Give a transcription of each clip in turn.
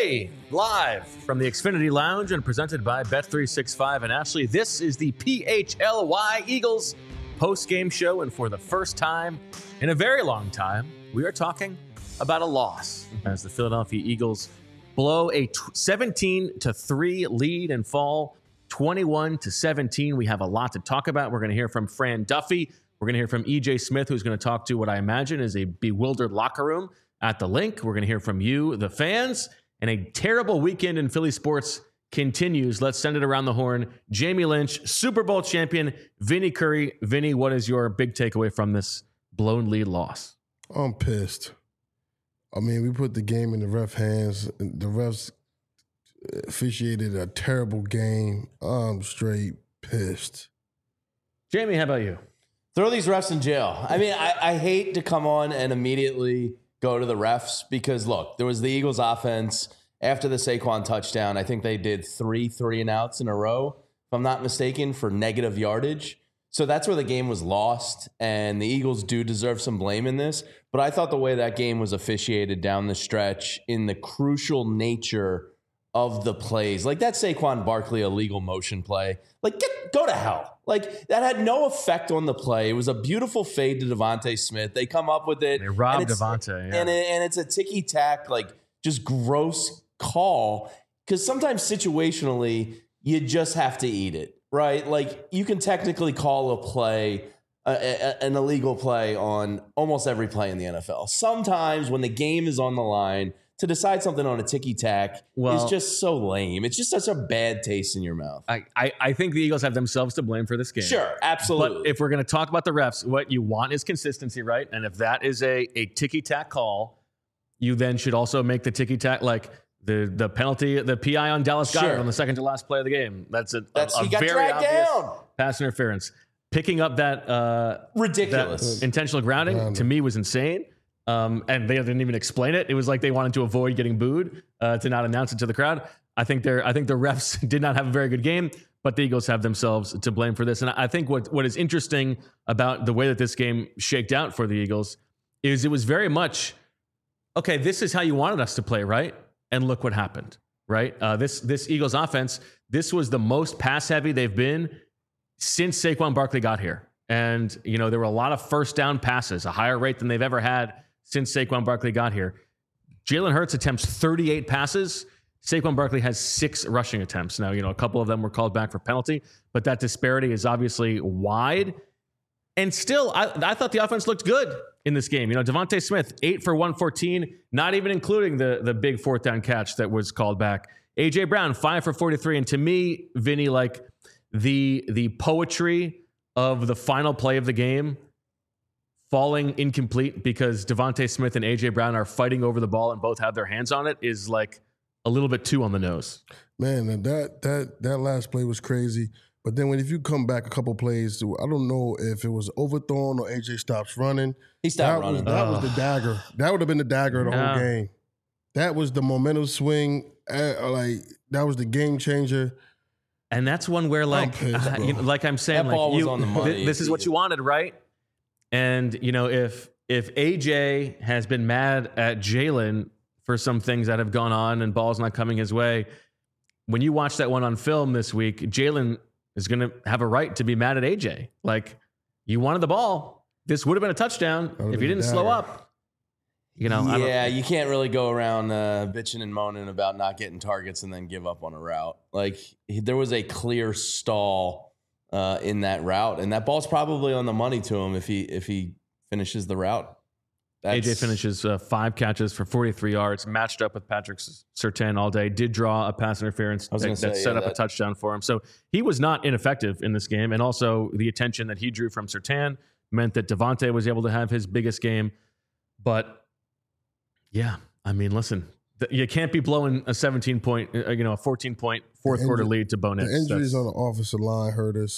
Hey, live from the Xfinity Lounge and presented by Bet365 and Ashley. This is the PHLY Eagles post-game show, and for the first time in a very long time, we are talking about a loss as the Philadelphia Eagles blow a 17-3 lead and fall 21-17. We have a lot to talk about. We're going to hear from Fran Duffy. We're going to hear from EJ Smith, who's going to talk to what I imagine is a bewildered locker room at the link. We're going to hear from you, the fans, and a terrible weekend in Philly sports continues. Let's send it around the horn. Jamie Lynch, Super Bowl champion, Vinny Curry. Vinny, what is your big takeaway from this blown lead loss? I'm pissed. I mean, we put the game in the ref hands. The refs officiated a terrible game. I'm straight pissed. Jamie, how about you? Throw these refs in jail. I mean, I hate to come on and immediately go to the refs because, look, there was the Eagles offense after the Saquon touchdown. I think they did three and outs in a row, if I'm not mistaken, for negative yardage. So that's where the game was lost, and the Eagles do deserve some blame in this. But I thought the way that game was officiated down the stretch in the crucial nature of the plays, like that Saquon Barkley illegal motion play, like go to hell. Like that had no effect on the play. It was a beautiful fade to Devontae Smith. They come up with it. They robbed Devontae. Yeah. And it's a ticky-tack, like just gross call because sometimes situationally you just have to eat it, right? Like you can technically call a play, an illegal play on almost every play in the NFL. Sometimes when the game is on the line, to decide something on a ticky-tack is just so lame. It's just such a bad taste in your mouth. I think the Eagles have themselves to blame for this game. Sure, absolutely. But if we're going to talk about the refs, what you want is consistency, right? And if that is a ticky-tack call, you then should also make the ticky-tack, like the penalty, the PI on Dallas Goedert on the second to last play of the game. That's a he got very dragged obvious down. Pass interference. Picking up that ridiculous that intentional grounding to me was insane. And they didn't even explain it. It was like they wanted to avoid getting booed to not announce it to the crowd. I think the refs did not have a very good game, but the Eagles have themselves to blame for this. And I think what is interesting about the way that this game shaked out for the Eagles is it was very much, okay, this is how you wanted us to play, right? And look what happened, right? This Eagles offense, this was the most pass heavy they've been since Saquon Barkley got here. And, you know, there were a lot of first down passes, a higher rate than they've ever had since Saquon Barkley got here. Jalen Hurts attempts 38 passes. Saquon Barkley has 6 rushing attempts. Now, you know, a couple of them were called back for penalty, but that disparity is obviously wide. And still, I thought the offense looked good in this game. You know, Devontae Smith, 8 for 114, not even including the big fourth down catch that was called back. A.J. Brown, 5 for 43. And to me, Vinny, like the poetry of the final play of the game falling incomplete because Devontae Smith and A.J. Brown are fighting over the ball and both have their hands on it is like a little bit too on the nose. Man, that last play was crazy. But then if you come back a couple plays, I don't know if it was overthrown or A.J. stops running. He stopped running. That was the dagger. That would have been the dagger of the whole game. That was the momentum swing. Like that was the game changer. And that's one where, like, pissed, you know, like I'm saying, that ball was on the money. This is what you wanted, right? And you know, if AJ has been mad at Jalen for some things that have gone on and balls not coming his way, when you watch that one on film this week, Jalen is going to have a right to be mad at AJ. Like, you wanted the ball. This would have been a touchdown if you didn't slow up. You know, yeah, you can't really go around bitching and moaning about not getting targets and then give up on a route. Like there was a clear stall in that route, and that ball's probably on the money to him if he finishes the route. AJ finishes 5 catches for 43 yards, matched up with Patrick Surtain all day. Did draw a pass interference that set up a touchdown for him. So he was not ineffective in this game, and also the attention that he drew from Surtain meant that Devontae was able to have his biggest game, but. Yeah, I mean, listen, you can't be blowing a 17-point, a 14-point fourth quarter lead to Bo Nix. The injuries on the offensive line hurt us.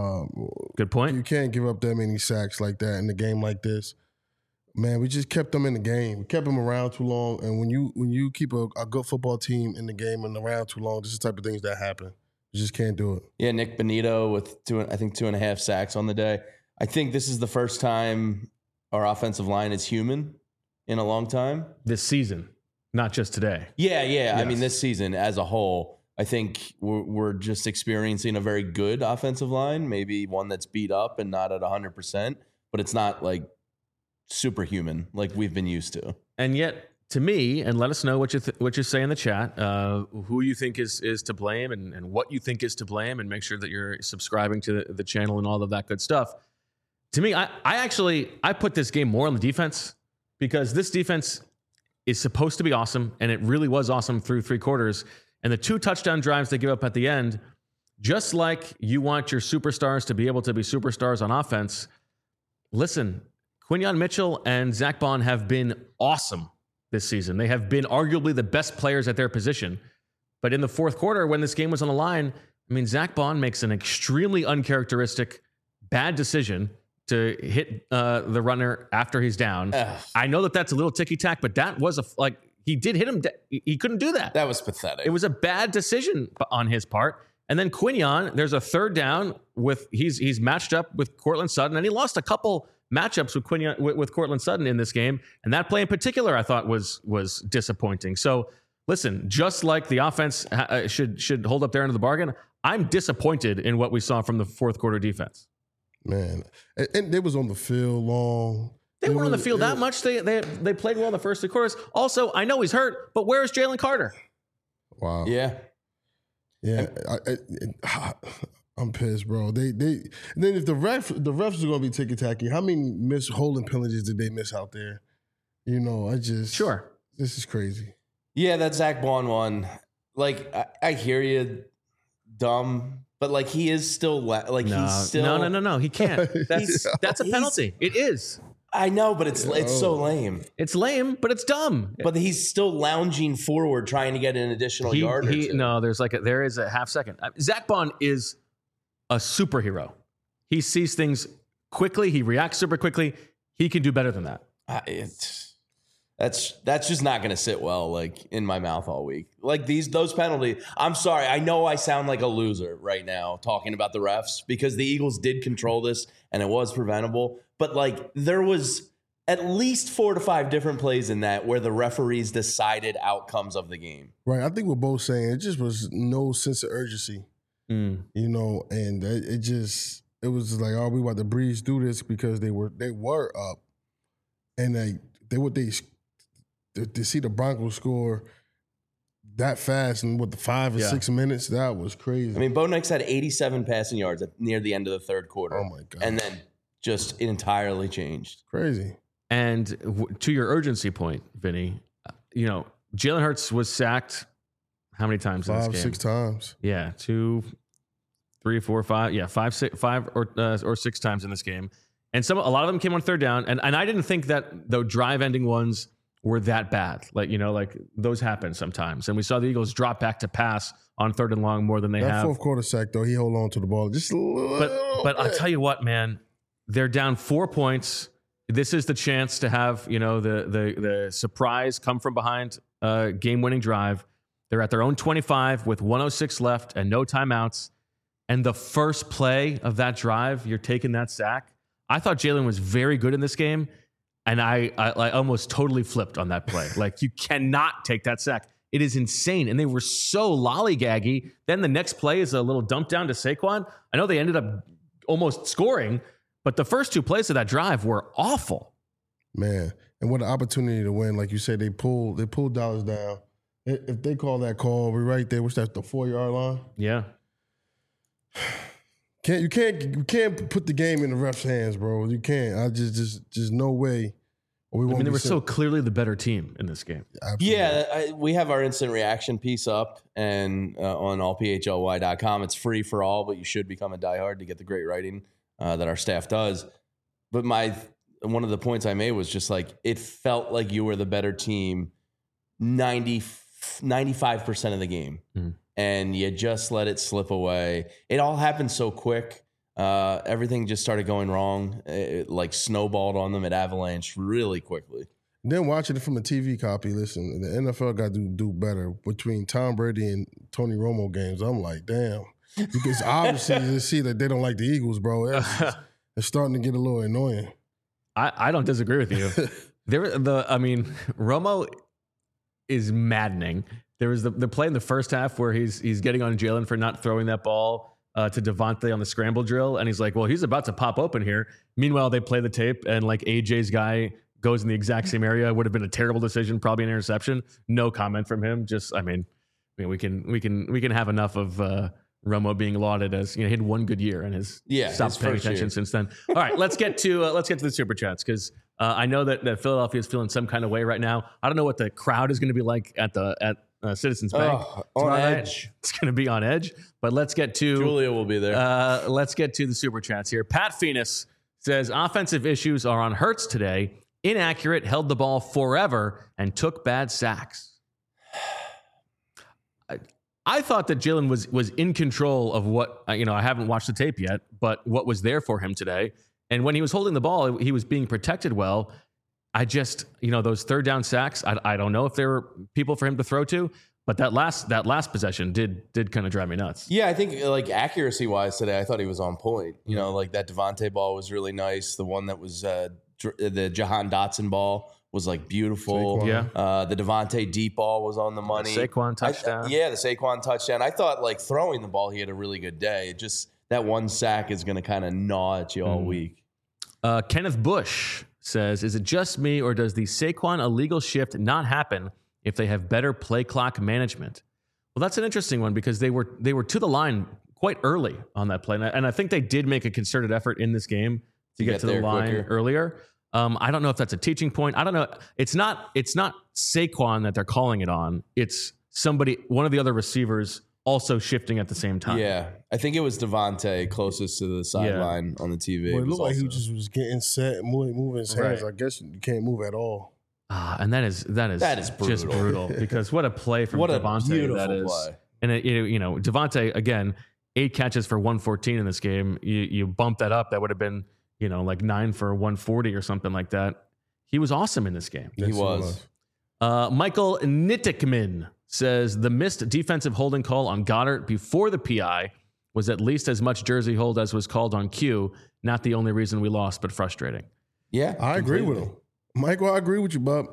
Good point. You can't give up that many sacks like that in a game like this. Man, we just kept them in the game. We kept them around too long. And when you keep a good football team in the game and around too long, this is the type of things that happen. You just can't do it. Yeah, Nick Bonito with 2.5 sacks on the day. I think this is the first time our offensive line is human in a long time. This season. not just today. Yeah. I Yes. mean, this season as a whole, I think we're just experiencing a very good offensive line, maybe one that's beat up and not at 100%, but it's not like superhuman like we've been used to. And yet, to me, and let us know what you say in the chat, who you think is to blame and what you think is to blame, and make sure that you're subscribing to the channel and all of that good stuff. To me, I put this game more on the defense, because this defense is supposed to be awesome, and it really was awesome through 3 quarters. And the 2 touchdown drives they give up at the end, just like you want your superstars to be able to be superstars on offense. Listen, Quinyon Mitchell and Zach Bond have been awesome this season. They have been arguably the best players at their position. But in the 4th quarter, when this game was on the line, I mean, Zach Bond makes an extremely uncharacteristic, bad decision to hit the runner after he's down. I know that that's a little ticky-tack, but that was he did hit him. He couldn't do that. That was pathetic. It was a bad decision on his part. And then Quinyon, there's a 3rd down with he's matched up with Courtland Sutton, and he lost a couple matchups with Quinyon with Courtland Sutton in this game, and that play in particular I thought was disappointing. So listen, just like the offense should hold up their end of the bargain, I'm disappointed in what we saw from the 4th quarter defense. Man, and they was on the field long. They weren't on the field that much. They played well in the first 3 quarters. Also, I know he's hurt, but where is Jalen Carter? Wow. Yeah. I'm pissed, bro. They and then if the refs are going to be ticky tacky, how many holding penalties did they miss out there? Sure. This is crazy. Yeah, that Zach Bond one. Like, I hear you, dumb, but like he is still he's still no. He can't. That's a penalty. It is. I know, but it's so lame. It's lame, but it's dumb. But he's still lounging forward, trying to get an additional yard or 2. No, there is a half second. Zach Bond is a superhero. He sees things quickly. He reacts super quickly. He can do better than that. That's just not going to sit well like in my mouth all week. Like those penalties. I'm sorry. I know I sound like a loser right now talking about the refs, because the Eagles did control this and it was preventable. But like there was at least 4 to 5 different plays in that where the referees decided outcomes of the game. Right. I think we're both saying it just was no sense of urgency. And it was like, oh, we about to breeze through this, because they were up, and to see the Broncos score that fast in the 5 or 6 minutes, that was crazy. I mean, Bo Nix had 87 passing yards near the end of the 3rd quarter. Oh my God. And then just entirely changed. Crazy. And to your urgency point, Vinny, Jalen Hurts was sacked how many times in this game? 5-6 times. Yeah, 2, 3, 4, 5. Yeah, 5 or 6 times in this game. And a lot of them came on 3rd down. And I didn't think that the drive-ending ones were that bad. Like those happen sometimes. And we saw the Eagles drop back to pass on 3rd and long more than they have. That 4th quarter sack, though, he hold on to the ball just a little But bit. I'll tell you what, man, they're down 4 points. This is the chance to have, the surprise come from behind game-winning drive. They're at their own 25 with 1:06 left and no timeouts. And the first play of that drive, you're taking that sack. I thought Jalen was very good in this game, and I almost totally flipped on that play. Like, you cannot take that sack. It is insane. And they were so lollygaggy. Then the next play is a little dump down to Saquon. I know they ended up almost scoring, but the first 2 plays of that drive were awful. Man, and what an opportunity to win. Like you said, they pulled Dallas down. If they call that call, we're right there. What's that, the 4-yard line? Yeah. You can't put the game in the refs' hands, bro. You can't. I just no way. They were so clearly the better team in this game. Absolutely. Yeah, we have our instant reaction piece up and on allphly.com. It's free for all, but you should become a diehard to get the great writing that our staff does. But one of the points I made was just like, it felt like you were the better team 95% of the game. Mm. And you just let it slip away. It all happened so quick. Everything just started going wrong. It like snowballed on them. It avalanched really quickly. Then watching it from a TV copy, listen, the NFL got to do better. Between Tom Brady and Tony Romo games, I'm like, damn. Because obviously you see that they don't like the Eagles, bro. It's starting to get a little annoying. I don't disagree with you. Romo is maddening. There was the play in the first half where he's getting on Jalen for not throwing that ball to Devontae on the scramble drill, and he's like, well, he's about to pop open here. Meanwhile, they play the tape, and like AJ's guy goes in the exact same area. Would have been a terrible decision, probably an interception. No comment from him. Just, I mean, we can have enough of Romo being lauded as, he had one good year and has stopped paying attention since then. All right, let's get to the super chats, because I know that Philadelphia is feeling some kind of way right now. I don't know what the crowd is going to be like at Citizens Bank. On edge. It's going to be on edge. But let's get to Julia will be there. Let's get to the super chats here. Pat Phoenix says offensive issues are on Hurts today. Inaccurate, held the ball forever, and took bad sacks. I thought that Jalen was in control of what, I haven't watched the tape yet, but what was there for him today. And when he was holding the ball, he was being protected well. I just, those third down sacks, I don't know if there were people for him to throw to, but that last possession did kind of drive me nuts. Yeah, I think like accuracy wise today, I thought he was on point. Like that Devontae ball was really nice. The one that was the Jahan Dotson ball was like beautiful. Saquon. Yeah. The Devontae deep ball was on the money. The Saquon touchdown. The Saquon touchdown. I thought like throwing the ball, he had a really good day. It just, that one sack is going to kind of gnaw at you all week. Kenneth Bush says, is it just me, or does the Saquon illegal shift not happen if they have better play clock management? Well, that's an interesting one, because they were to the line quite early on that play. And I think they did make a concerted effort in this game to get to the line quicker. Earlier. I don't know if that's a teaching point. I don't know. It's not Saquon that they're calling it on. It's one of the other receivers also shifting at the same time. Yeah. I think it was Devontae closest to the sideline on the TV. Well, it looked like he just was getting set, moving his hands. Right. I guess you can't move at all. And that is just brutal, because what a play from Devontae that is. Play. And Devontae, again, 8 catches for 114 in this game. You bump that up, that would have been, like 9 for 140 or something like that. He was awesome in this game. He was. Michael Nittickman says the missed defensive holding call on Goddard before the PI was at least as much jersey hold as was called on Q. Not the only reason we lost, but frustrating. Yeah, I agree with him. Michael, I agree with you, bub.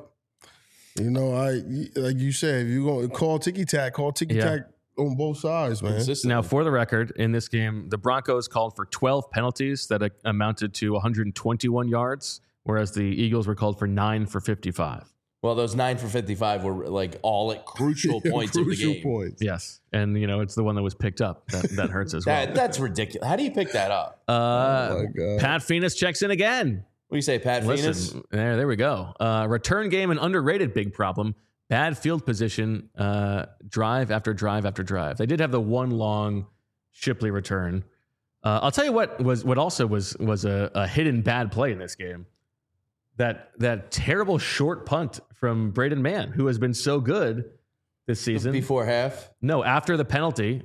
Like you said, if you're going to call ticky-tack on both sides, man. Now, for the record, in this game, the Broncos called for 12 penalties that amounted to 121 yards, whereas the Eagles were called for 9 for 55. Well, those 9 for 55 were like all at crucial points of the game. Points. Yes. And, it's the one that was picked up that hurts as well. That's ridiculous. How do you pick that up? Oh, my God. Pat Phoenix checks in again. What do you say, Pat Phoenix? There we go. Return game, an underrated big problem. Bad field position, drive after drive after drive. They did have the one long Shipley return. I'll tell you what also was a hidden bad play in this game. That terrible short punt from Braden Mann, who has been so good this season. Before half? No, after the penalty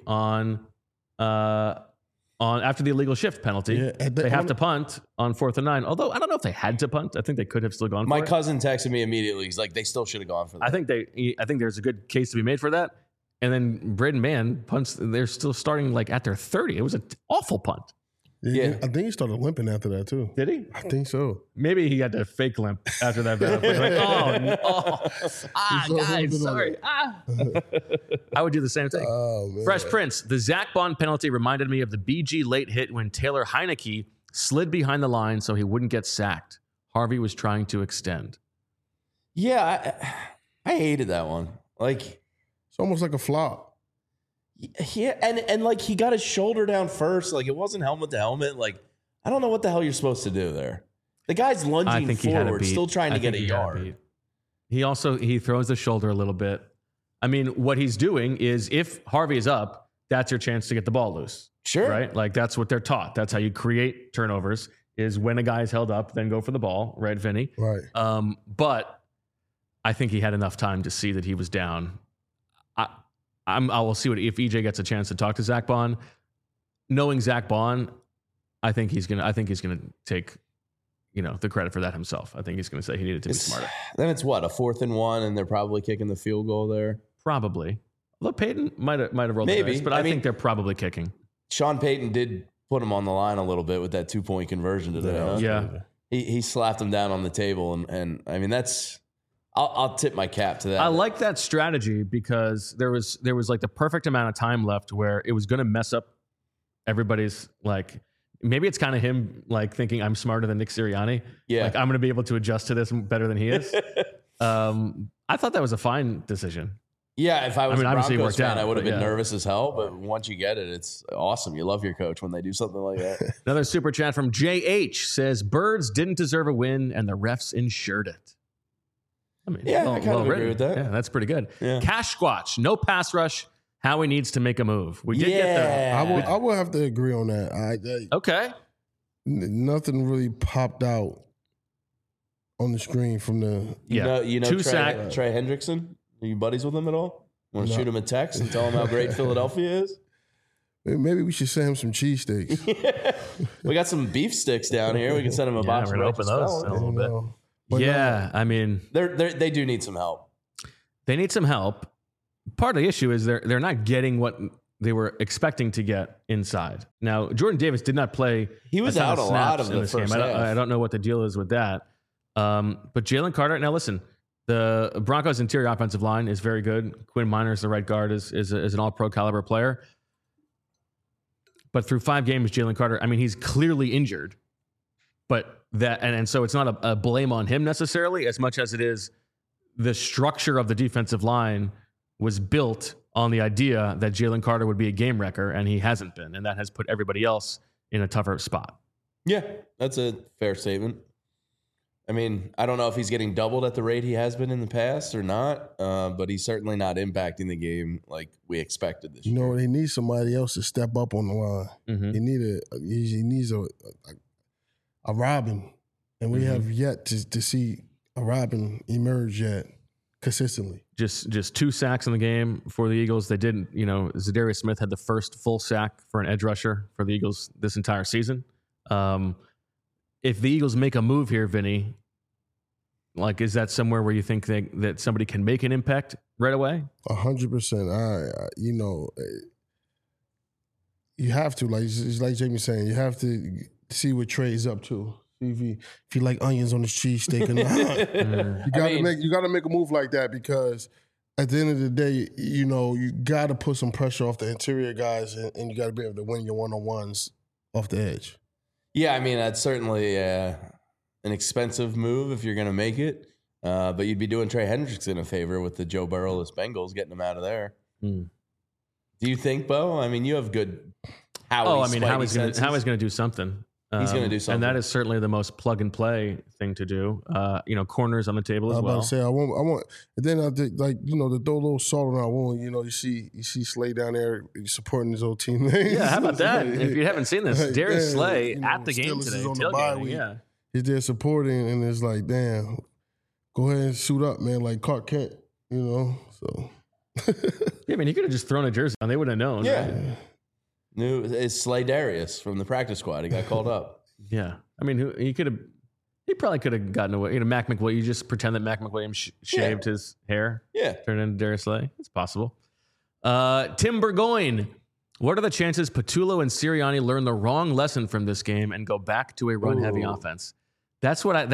after the illegal shift penalty, they have to punt on 4th and 9. Although I don't know if they had to punt. I think they could have still gone for it. My cousin texted me immediately. He's like, they still should have gone for that. I think there's a good case to be made for that. And then Braden Mann punts. They're still starting like at their 30. It was an awful punt. Yeah. I think he started limping after that too. Did he? I think so. Maybe he had to fake limp after that. Guys, sorry. I would do the same thing. Oh, man. Fresh Prince. The Zach Bond penalty reminded me of the BG late hit when Taylor Heineke slid behind the line so he wouldn't get sacked. Harvey was trying to extend. Yeah, I hated that one. Like, it's almost like a flop. Yeah, and like he got his shoulder down first. Like it wasn't helmet to helmet. Like I don't know what the hell you're supposed to do there. The guy's lunging forward, still trying to get a yard. He throws the shoulder a little bit. I mean, what he's doing is if Harvey is up, that's your chance to get the ball loose. Sure. Right? Like that's what they're taught. That's how you create turnovers, is when a guy is held up, then go for the ball. Right, Vinny? Right. But I think he had enough time to see that he was down. I will see if EJ gets a chance to talk to Zach Bond. Knowing Zach Bond, I think he's gonna take, the credit for that himself. I think he's gonna say he needed to be smarter. Then it's what, a 4th and 1, and they're probably kicking the field goal there. Probably. Although Peyton might have rolled the dice, but I think they're probably kicking. Sean Payton did put him on the line a little bit with that 2-point conversion today. Huh? Yeah. He slapped him down on the table, and I mean that's I'll tip my cap to that. I like that strategy because there was like the perfect amount of time left where it was going to mess up everybody's like. Maybe it's kind of him like thinking I'm smarter than Nick Sirianni. Yeah. Like I'm going to be able to adjust to this better than he is. I thought that was a fine decision. Yeah, if I was a obviously it Broncos worked fan, out, I would have but been yeah. nervous as hell. But once you get it, it's awesome. You love your coach when they do something like that. Another super chat from JH says Birds didn't deserve a win and the refs ensured it. I mean, Yeah, I kind of agree with that. Yeah, that's pretty good. Yeah. Cash Squatch, no pass rush. Howie needs to make a move. We did get Yeah. I will have to agree on that. Okay. Nothing really popped out on the screen from the. Yeah. You know Two Trey sack. Hendrickson? Are you buddies with him at all? Want to No. shoot him a text and tell him how great Philadelphia is? Maybe we should send him some cheesesteaks. We got some beef sticks down here. We can send him a Yeah, box we're of gonna Righteous open those Felon. in a little bit. know. But Yeah, I mean, They do need some help. they need some help. Part of the issue is they're not getting what they were expecting to get inside. Now, Jordan Davis did not play. He was ton out a lot snaps of in the this first game. half. I don't know what the deal is with that. But Jalen Carter. Now, listen, the Broncos' interior offensive line is very good. Quinn Miners, the right guard, is an All-Pro caliber player. But through 5 games, Jalen Carter, I mean, he's clearly injured. But that and so it's not a blame on him necessarily as much as it is the structure of the defensive line was built on the idea that Jalen Carter would be a game wrecker, and he hasn't been. And that has put everybody else in a tougher spot. Yeah, that's a fair statement. I mean, I don't know if he's getting doubled at the rate he has been in the past or not, but he's certainly not impacting the game like we expected this You year. know, he needs somebody else to step up on the line. Mm-hmm. He needs a Robin, and we have yet to see a Robin emerge yet consistently. Just 2 sacks in the game for the Eagles. They didn't, Zadarius Smith had the first full sack for an edge rusher for the Eagles this entire season. If the Eagles make a move here, Vinny, like, is that somewhere where you think that somebody can make an impact right away? 100%. You have to, like it's like Jamie's saying, you have to see what Trey's up to. If you like onions on his cheesesteak or not. You gotta make a move like that because at the end of the day, you gotta put some pressure off the interior guys and you gotta be able to win your one-on-ones off the edge. Yeah, I mean, that's certainly an expensive move if you're going to make it. But you'd be doing Trey Hendrickson a favor with the Joe Burrow-less Bengals, getting him out of there. Do you think, Bo? I mean, you have good Howie's Howie's going to do something. He's going to do something. And that is certainly the most plug-and-play thing to do. Corners on the table as I was well. about to say I want, and then I think to throw a little salt on our wound. You see Slay down there supporting his old teammates. Yeah, how about that? If you haven't seen this, Like, Darius damn, Slay at the game Steelers today, is on the bye tailgating. week. Yeah. He's there supporting, and it's like, damn, go ahead and suit up, man, like Clark Kent, So Yeah, I mean, he could have just thrown a jersey on. They wouldn't have known. Yeah. Right? It's Slay Darius from the practice squad. He got called up. Yeah. I mean, he probably could have gotten away. Mac McWilliams, you just pretend that Mac McWilliams shaved his hair, Yeah. turned into Darius Slay. It's possible. Tim Burgoyne, what are the chances Patullo and Sirianni learn the wrong lesson from this game and go back to a run-heavy offense? That's what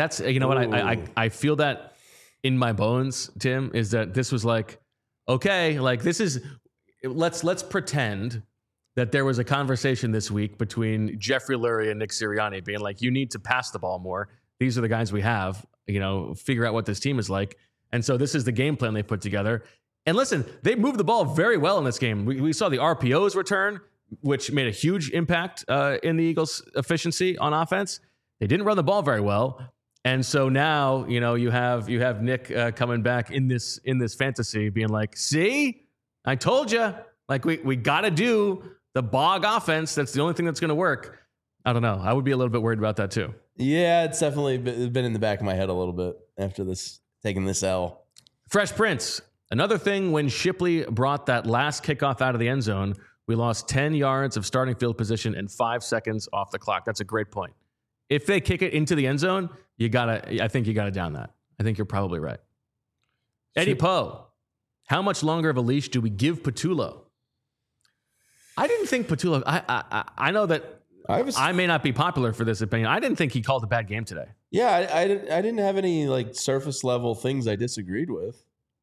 I feel that in my bones, Tim, is that this was like, okay, like this is, let's pretend that there was a conversation this week between Jeffrey Lurie and Nick Sirianni being like, you need to pass the ball more. These are the guys we have, figure out what this team is like. And so this is the game plan they put together. And listen, they moved the ball very well in this game. We saw the RPOs return, which made a huge impact in the Eagles' efficiency on offense. They didn't run the ball very well. And so now, you have Nick coming back in this fantasy being like, see, I told you, like we got to do the Bog offense. That's the only thing that's going to work. I don't know. I would be a little bit worried about that too. Yeah, it's definitely been in the back of my head a little bit after taking this L. Fresh Prince. Another thing, when Shipley brought that last kickoff out of the end zone, we lost 10 yards of starting field position and 5 seconds off the clock. That's a great point. If they kick it into the end zone, I think you gotta down that. I think you're probably right. Eddie Poe, how much longer of a leash do we give Patullo? I didn't think Patullo. I know that I may not be popular for this opinion. I didn't think he called a bad game today. Yeah, I didn't have any like surface level things I disagreed with.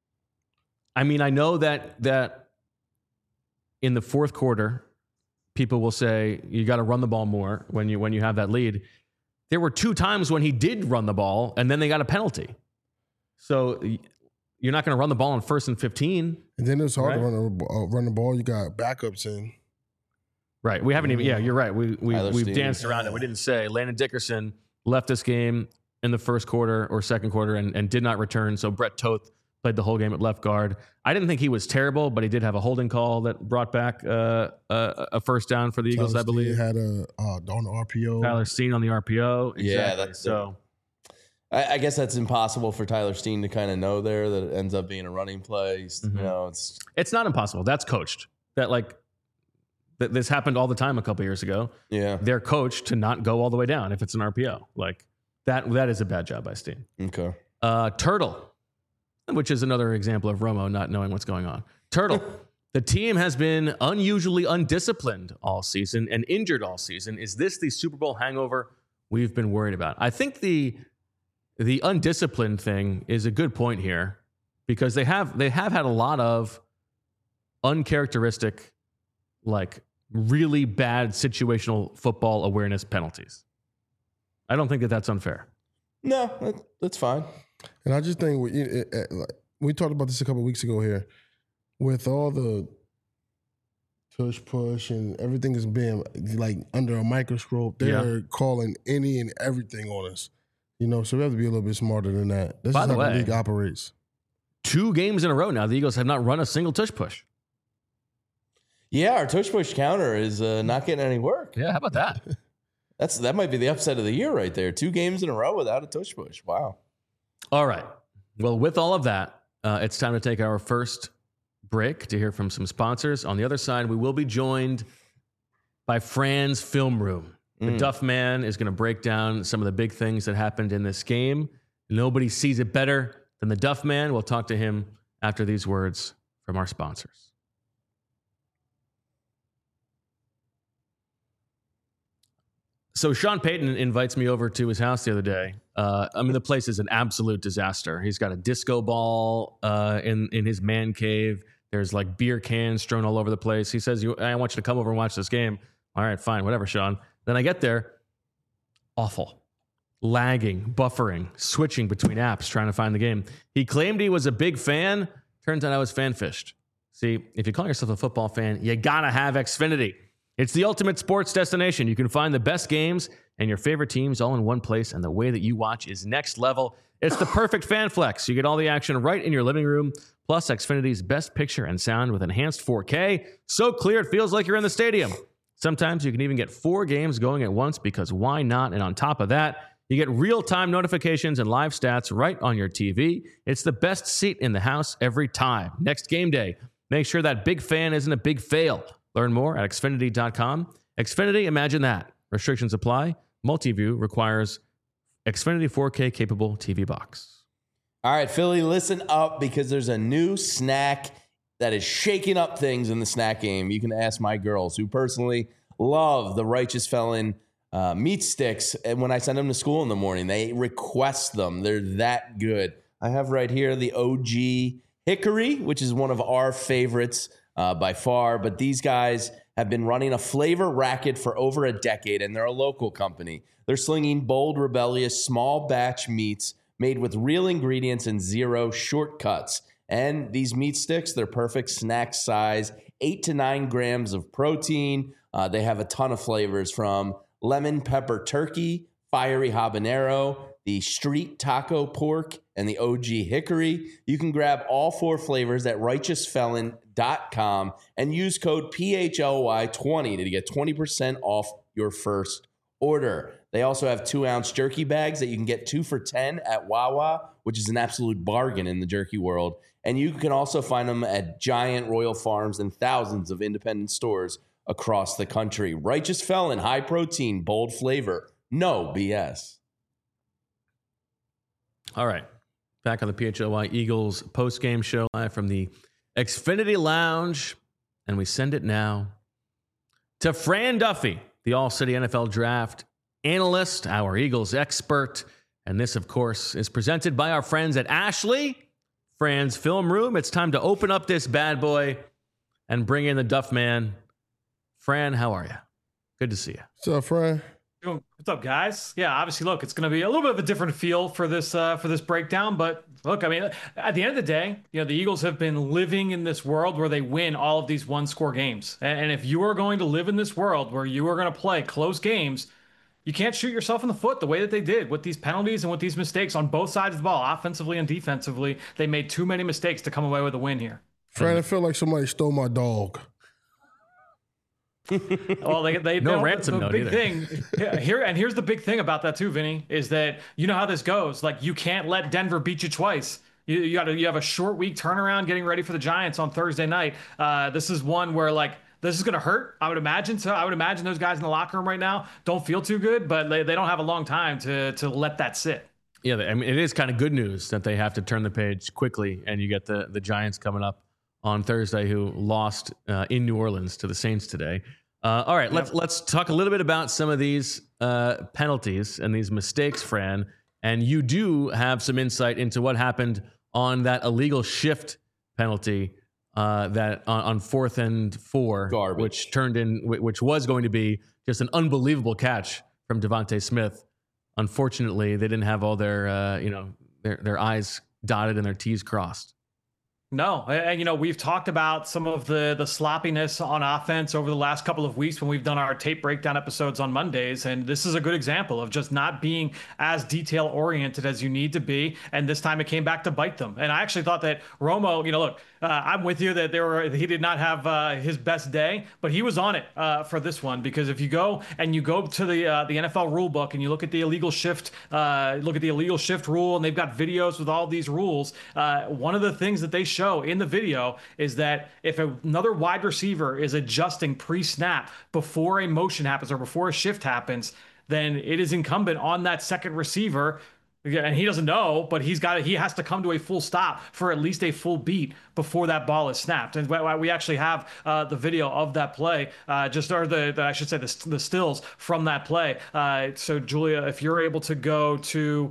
I mean, I know that in the fourth quarter, people will say you got to run the ball more when you have that lead. There were 2 times when he did run the ball, and then they got a penalty. So you're not going to run the ball on 1st and 15. And then it's hard Right. to run the ball. You got backups in. Right. We haven't even. Yeah, you're right. We've Steen. danced around it. We didn't say Landon Dickerson left this game in the first quarter or second quarter and did not return. So Brett Toth played the whole game at left guard. I didn't think he was terrible, but he did have a holding call that brought back a first down for the Eagles, Tyler I believe. Steen had a on the RPO. Tyler Steen on the RPO. Exactly. Yeah, that's so. I guess that's impossible for Tyler Steen to kind of know there that it ends up being a running play. You know, It's not impossible. That's coached. This happened all the time a couple years ago. yeah. They're coached to not go all the way down if it's an RPO. Like that is a bad job by Steen. Okay. Turtle, which is another example of Romo not knowing what's going on. Turtle, the team has been unusually undisciplined all season and injured all season. Is this the Super Bowl hangover we've been worried about? I think the undisciplined thing is a good point here because they have had a lot of uncharacteristic, like really bad situational football awareness penalties. I don't think that's unfair. No, that's fine. And I just think we talked about this a couple of weeks ago here. With all the tush push and everything is being like under a microscope, they're calling any and everything on us. You know, so we have to be a little bit smarter than that. That's By just the how way, the league operates. 2 games in a row now, the Eagles have not run a single tush push. Yeah, our tush push counter is not getting any work. Yeah, how about that? That might be the upset of the year right there. 2 games in a row without a tush push. Wow. All right. Well, with all of that, it's time to take our first break to hear from some sponsors. On the other side, we will be joined by Fran's Film Room. The Duff Man is going to break down some of the big things that happened in this game. Nobody sees it better than the Duff Man. We'll talk to him after these words from our sponsors. So Sean Payton invites me over to his house the other day. I mean, the place is an absolute disaster. He's got a disco ball in his man cave. There's like beer cans strewn all over the place. He says, I want you to come over and watch this game. All right, fine, whatever, Sean. Then I get there, awful. Lagging, buffering, switching between apps, trying to find the game. He claimed he was a big fan. Turns out I was fan-fished. See, if you call yourself a football fan, you gotta have Xfinity. It's the ultimate sports destination. You can find the best games and your favorite teams all in one place, and the way that you watch is next level. It's the perfect fan flex. You get all the action right in your living room, plus Xfinity's best picture and sound with enhanced 4K. So clear it feels like you're in the stadium. Sometimes you can even get 4 games going at once because why not? And on top of that, you get real-time notifications and live stats right on your TV. It's the best seat in the house every time. Next game day, make sure that big fan isn't a big fail. Learn more at Xfinity.com. Xfinity, imagine that. Restrictions apply. Multiview requires Xfinity 4K capable TV box. All right, Philly, listen up because there's a new snack that is shaking up things in the snack game. You can ask my girls who personally love the Righteous Felon meat sticks. And when I send them to school in the morning, they request them. They're that good. I have right here the OG Hickory, which is one of our favorites by far. But these guys have been running a flavor racket for over a decade, and they're a local company. They're slinging bold, rebellious, small batch meats made with real ingredients and zero shortcuts. And these meat sticks, they're perfect snack size, 8 to 9 grams of protein. They have a ton of flavors from lemon pepper turkey, fiery habanero, the street taco pork, and the OG hickory. You can grab all 4 flavors at righteousfelon.com and use code PHLY20 to get 20% off your first order. They also have 2-ounce jerky bags that you can get 2 for $10 at Wawa, which is an absolute bargain in the jerky world. And you can also find them at Giant, Royal Farms, and thousands of independent stores across the country. Righteous Felon, high protein, bold flavor, no BS. All right. Back on the PHLY Eagles post-game show live from the Xfinity Lounge. And we send it now to Fran Duffy, the All-City NFL Draft analyst, our Eagles expert. And this, of course, is presented by our friends at Ashley Fran's Film Room. It's time to open up this bad boy and bring in the Duff Man. Fran, how are you? Good to see you. What's up, Fran? What's up, guys? Yeah, obviously, look, it's going to be a little bit of a different feel for this breakdown. But look, I mean, at the end of the day, the Eagles have been living in this world where they win all of these one-score games. And if you are going to live in this world where you are going to play close games, you can't shoot yourself in the foot the way that they did with these penalties and with these mistakes on both sides of the ball, offensively and defensively. They made too many mistakes to come away with a win here. Fran, I feel like somebody stole my dog. Well, they no ransom note big either. Thing here's the big thing about that too, Vinny, is that you know how this goes. Like, you can't let Denver beat you twice. You have a short week turnaround getting ready for the Giants on Thursday night. This is one where this is going to hurt, I would imagine. So I would imagine those guys in the locker room right now don't feel too good, but they don't have a long time to let that sit. Yeah, I mean, it is kind of good news that they have to turn the page quickly, and you get the Giants coming up on Thursday, who lost in New Orleans to the Saints today. All right, let's talk a little bit about some of these penalties and these mistakes, Fran. And you do have some insight into what happened on that illegal shift penalty that on 4th and 4, Garbage. which was going to be just an unbelievable catch from Devontae Smith. Unfortunately, they didn't have all their their I's dotted and their T's crossed. No, and we've talked about some of the sloppiness on offense over the last couple of weeks when we've done our tape breakdown episodes on Mondays, and this is a good example of just not being as detail oriented as you need to be. And this time it came back to bite them. And I actually thought that Romo, look, I'm with you that he did not have his best day, but he was on it for this one, because if you go to the NFL rule book and you look at the illegal shift, rule, and they've got videos with all these rules. One of the things that they show in the video is that if another wide receiver is adjusting pre-snap before a motion happens or before a shift happens, then it is incumbent on that second receiver. And he doesn't know, but he has to come to a full stop for at least a full beat before that ball is snapped. And we actually have the video of that play, I should say the stills from that play. So Julia, if you're able to go to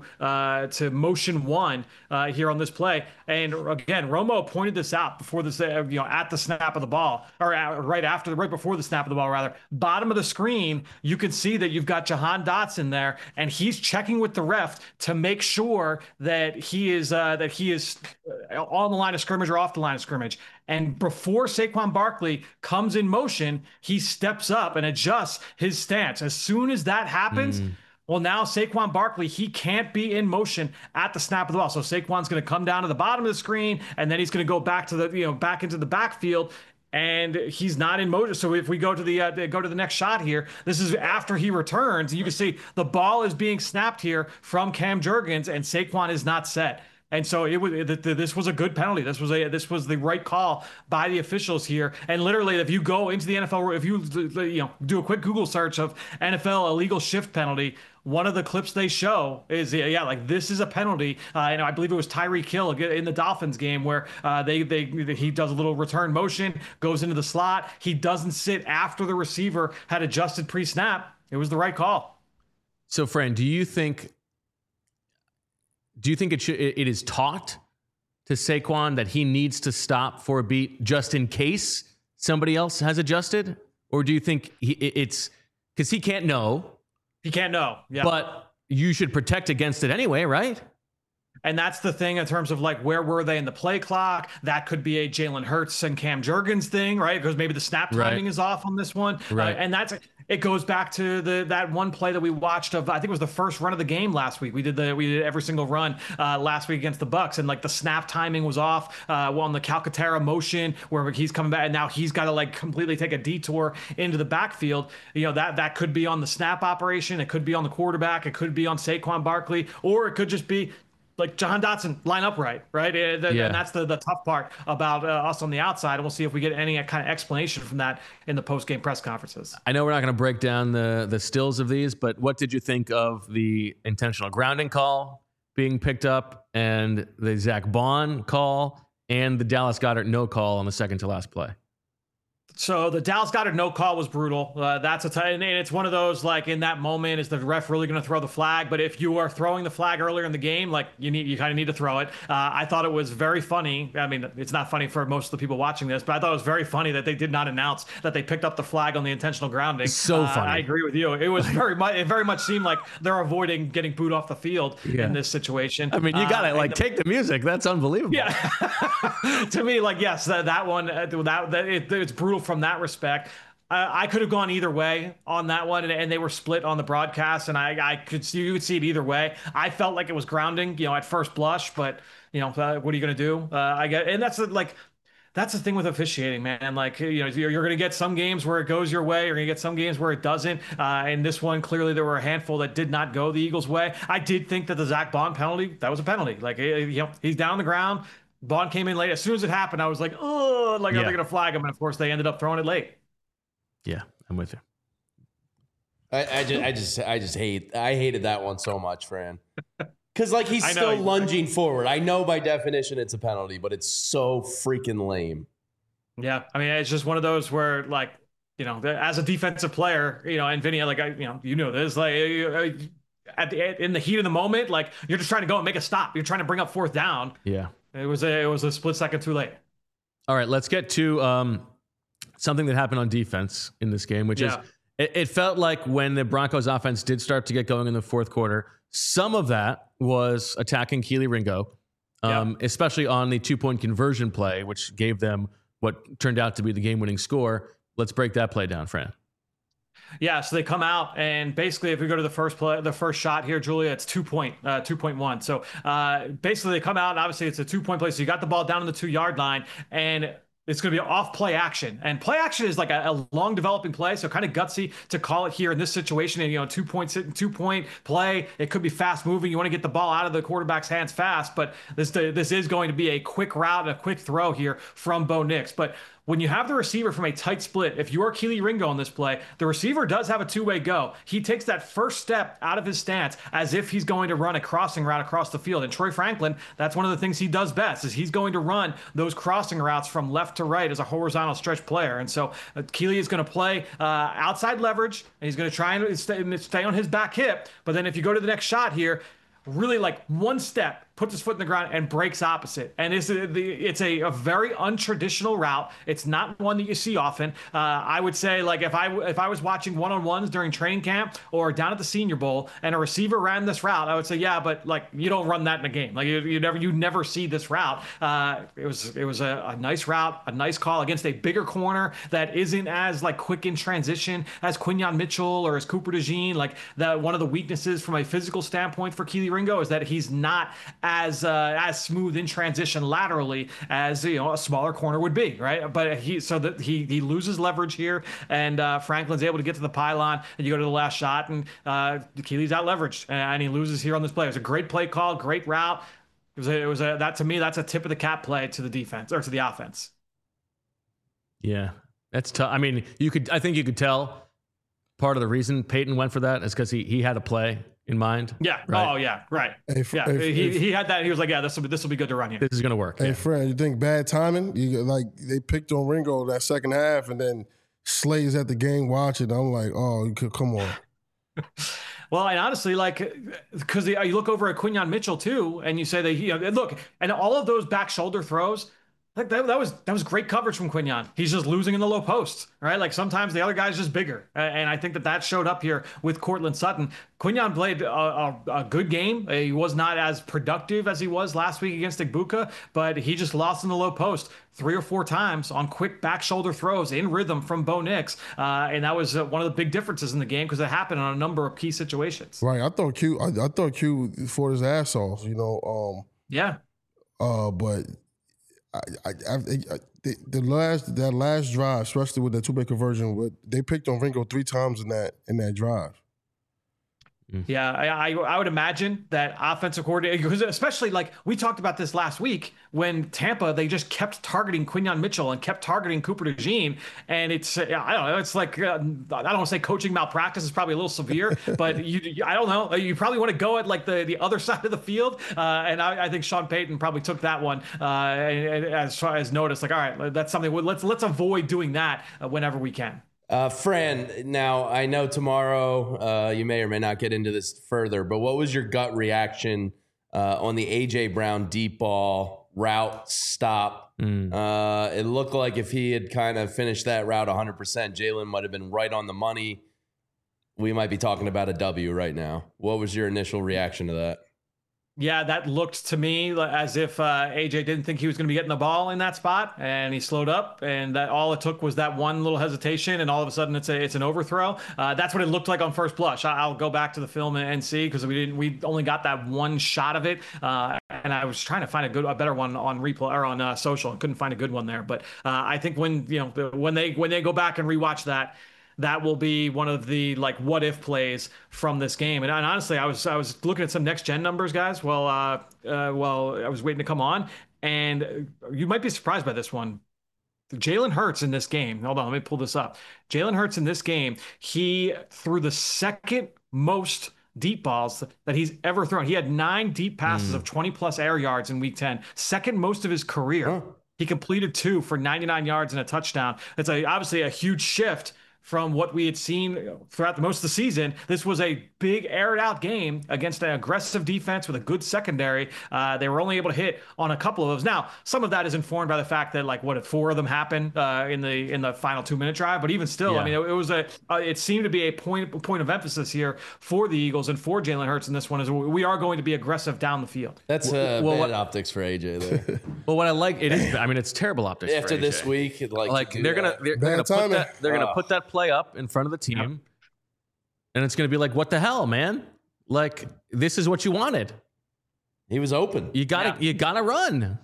motion 1 here on this play, and again, Romo pointed this out before this, at the snap of the ball, or right before the snap of the ball, rather. Bottom of the screen, you can see that you've got Jahan Dotson there, and he's checking with the ref to make sure that he is on the line of scrimmage or off the line of scrimmage. And before Saquon Barkley comes in motion, he steps up and adjusts his stance. As soon as that happens, well, now Saquon Barkley, he can't be in motion at the snap of the ball. So Saquon's going to come down to the bottom of the screen, and then he's going to go back to back into the backfield. And he's not in motion. So if we go to the next shot here, this is after he returns. You can see the ball is being snapped here from Cam Jurgens, and Saquon is not set. And so this was a good penalty. This was the right call by the officials here. And literally, if you go into the NFL, if you do a quick Google search of NFL illegal shift penalty, one of the clips they show is this is a penalty. I believe it was Tyreek Hill in the Dolphins game where he does a little return motion, goes into the slot. He doesn't sit after the receiver had adjusted pre-snap. It was the right call. So, Fran, do you think it is taught to Saquon that he needs to stop for a beat just in case somebody else has adjusted? Or do you think it's because he can't know? He can't know. Yeah. But you should protect against it anyway, right? And that's the thing in terms of where were they in the play clock? That could be a Jalen Hurts and Cam Jurgens thing, right? Because maybe the snap timing is off on this one. Right. And it goes back to that one play that we watched of, I think it was the first run of the game last week. We did every single run last week against the Bucs, and the snap timing was off on the Calcaterra motion where he's coming back, and now he's got to completely take a detour into the backfield. That could be on the snap operation. It could be on the quarterback. It could be on Saquon Barkley, or it could just be Jahan Dotson, line up right? And that's the tough part about us on the outside. And we'll see if we get any kind of explanation from that in the post-game press conferences. I know we're not going to break down the stills of these, but what did you think of the intentional grounding call being picked up and the Zach Bond call and the Dallas Goedert no call on the second to last play? So the Dallas Goedert no call was brutal. That's and it's one of those, like, in that moment, is the ref really going to throw the flag? But if you are throwing the flag earlier in the game, like, you kind of need to throw it. I thought it was very funny. I mean, it's not funny for most of the people watching this, but I thought it was very funny that they did not announce that they picked up the flag on the intentional grounding. So funny. I agree with you. It was it very much seemed like they're avoiding getting booed off the field in this situation. I mean, you got to take the music. That's unbelievable. Yeah. To me, like, yes, that one, it's brutal from that respect. I could have gone either way on that one, and they were split on the broadcast, and you could see it either way. I felt like it was grounding, at first blush, but what are you going to do? And that's the thing with officiating, man. Like, you're going to get some games where it goes your way. You're going to get some games where it doesn't. And this one, clearly, there were a handful that did not go the Eagles' way. I did think that the Zach Bond penalty, that was a penalty. Like, he's down on the ground. Bond came in late. As soon as it happened, I was like, oh, are they going to flag him? And of course, they ended up throwing it late. Yeah, I'm with you. I hated that one so much, Fran. Because, like, he's still lunging forward. I know by definition it's a penalty, but it's so freaking lame. Yeah, I mean, it's just one of those where, like, as a defensive player, and Vinny, like, this, like, in the heat of the moment, like, you're just trying to go and make a stop. You're trying to bring up fourth down. Yeah. It was a split second too late. All right, let's get to something that happened on defense in this game, which is it felt like when the Broncos offense did start to get going in the fourth quarter, some of that was attacking Kelee Ringo, especially on the 2-point conversion play, which gave them what turned out to be the game-winning score. Let's break that play down, Fran. Yeah, so they come out, and basically, if we go to the first shot here, Julia, it's 2.1. So basically, they come out, and obviously, it's a 2-point play. So you got the ball down on the 2-yard line, and it's going to be off play action. And play action is like a long developing play, so kind of gutsy to call it here in this situation. And, 2-point play, it could be fast moving. You want to get the ball out of the quarterback's hands fast, but this is going to be a quick route and a quick throw here from Bo Nix. But when you have the receiver from a tight split, if you are Kelee Ringo on this play, the receiver does have a two-way go. He takes that first step out of his stance as if he's going to run a crossing route across the field. And Troy Franklin, that's one of the things he does best, is he's going to run those crossing routes from left to right as a horizontal stretch player. And so Kelee is going to play outside leverage, and he's going to try and stay on his back hip. But then if you go to the next shot here, really like one step, puts his foot in the ground and breaks opposite. And it's a very untraditional route. It's not one that you see often. I would say, like, if I was watching one-on-ones during training camp or down at the Senior Bowl and a receiver ran this route, I would say, yeah, but like, you don't run that in a game. Like, you never see this route. It was a nice route, a nice call against a bigger corner that isn't as like quick in transition as Quinyon Mitchell or as Cooper DeJean. Like, that one of the weaknesses from a physical standpoint for Kelee Ringo is that he's not as smooth in transition laterally as a smaller corner would be, right? But he loses leverage here, and Franklin's able to get to the pylon, and you go to the last shot, and Keelee's out leveraged, and he loses here on this play. It was a great play call, great route. That to me, that's a tip of the cap play to the defense or to the offense. Yeah, that's tough. I mean, I think you could tell part of the reason Peyton went for that is because he had a play in mind. Yeah. Right? Oh, yeah. Right. He had that. He was like, yeah, this will be good to run here. This is going to work. Hey, Fred, you think bad timing? They picked on Ringo that second half, and then Slay's at the game watching. I'm like, oh, you could come on. Well, and honestly, like, because you look over at Quinyon Mitchell too, and you say that look, and all of those back shoulder throws, like that was great coverage from Quinyon. He's just losing in the low post, right? Like, sometimes the other guy's just bigger, and I think that showed up here with Courtland Sutton. Quinyon played a good game. He was not as productive as he was last week against Igbuka, but he just lost in the low post 3 or 4 times on quick back shoulder throws in rhythm from Bo Nix, and that was one of the big differences in the game because it happened on a number of key situations. Right. I thought Q fought his ass off. Yeah. But. That last drive, especially with the 2-point conversion, they picked on Ringo 3 times in that drive. Yeah, I would imagine that offensive coordinator, because especially like we talked about this last week when Tampa, they just kept targeting Quinyon Mitchell and kept targeting Cooper DeJean. And it's, I don't know, it's like, I don't want to say coaching malpractice is probably a little severe, but I don't know, you probably want to go at like the other side of the field. And I think Sean Payton probably took that one as far as notice, like, all right, that's something, let's avoid doing that whenever we can. Fran, now I know tomorrow you may or may not get into this further, but what was your gut reaction on the A.J. Brown deep ball route stop? It looked like if he had kind of finished that route 100%, Jalen might have been right on the money. We might be talking about a W right now. What was your initial reaction to that? Yeah, that looked to me as if AJ didn't think he was going to be getting the ball in that spot, and he slowed up, and that all it took was that one little hesitation, and all of a sudden it's an overthrow. That's what it looked like on first blush. I'll go back to the film and see, because we only got that one shot of it, and I was trying to find a better one on replay or on social, and couldn't find a good one there. But I think when they go back and rewatch that will be one of the like what if plays from this game. And honestly, I was looking at some next gen numbers, guys, while I was waiting to come on, and you might be surprised by this one. Jalen Hurts in this game. Hold on, let me pull this up. Jalen Hurts in this game, he threw the second most deep balls that he's ever thrown. He had 9 deep passes of 20 plus air yards in week 10, second most of his career. Huh. He completed 2 for 99 yards and a touchdown. It's obviously a huge shift from what we had seen throughout most of the season. This was a big aired out game against an aggressive defense with a good secondary. They were only able to hit on a couple of those. Now, some of that is informed by the fact that like what if 4 of them happened in the final 2-minute drive, but even still, I mean, it seemed to be a point of emphasis here for the Eagles and for Jalen Hurts in this one is we are going to be aggressive down the field. That's bad optics for AJ there. Well, what I like it's terrible optics after for AJ. this week. They're gonna put that play up in front of the team, and it's gonna be like, what the hell, man? Like, this is what you wanted. He was open. You gotta run.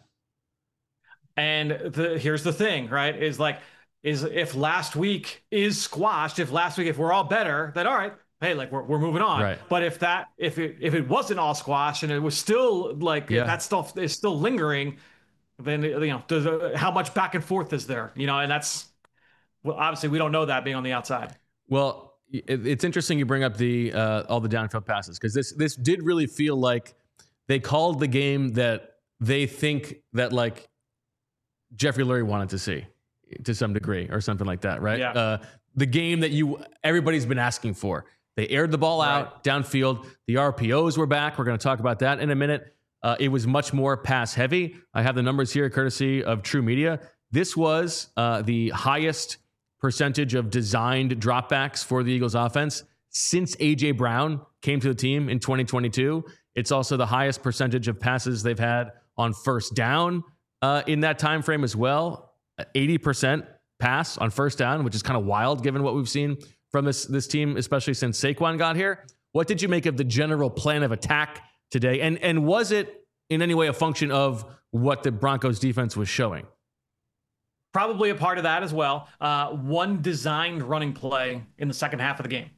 And here's the thing, right? Is if last week is squashed, if we're all better, then all right, hey, like we're moving on. Right. But if it wasn't all squashed and it was still like that stuff is still lingering, then how much back and forth is there? And that's. Well, obviously, we don't know that being on the outside. Well, it's interesting you bring up all the downfield passes, because this did really feel like they called the game that they think that like Jeffrey Lurie wanted to see to some degree or something like that, right? Yeah. The game that everybody's been asking for. They aired the ball out downfield. The RPOs were back. We're going to talk about that in a minute. It was much more pass heavy. I have the numbers here courtesy of True Media. This was the highest percentage of designed dropbacks for the Eagles offense since A.J. Brown came to the team in 2022. It's also the highest percentage of passes they've had on first down in that time frame as well. 80% pass on first down, which is kind of wild given what we've seen from this team, especially since Saquon got here. What did you make of the general plan of attack today? And was it in any way a function of what the Broncos defense was showing? Probably a part of that as well. One designed running play in the second half of the game.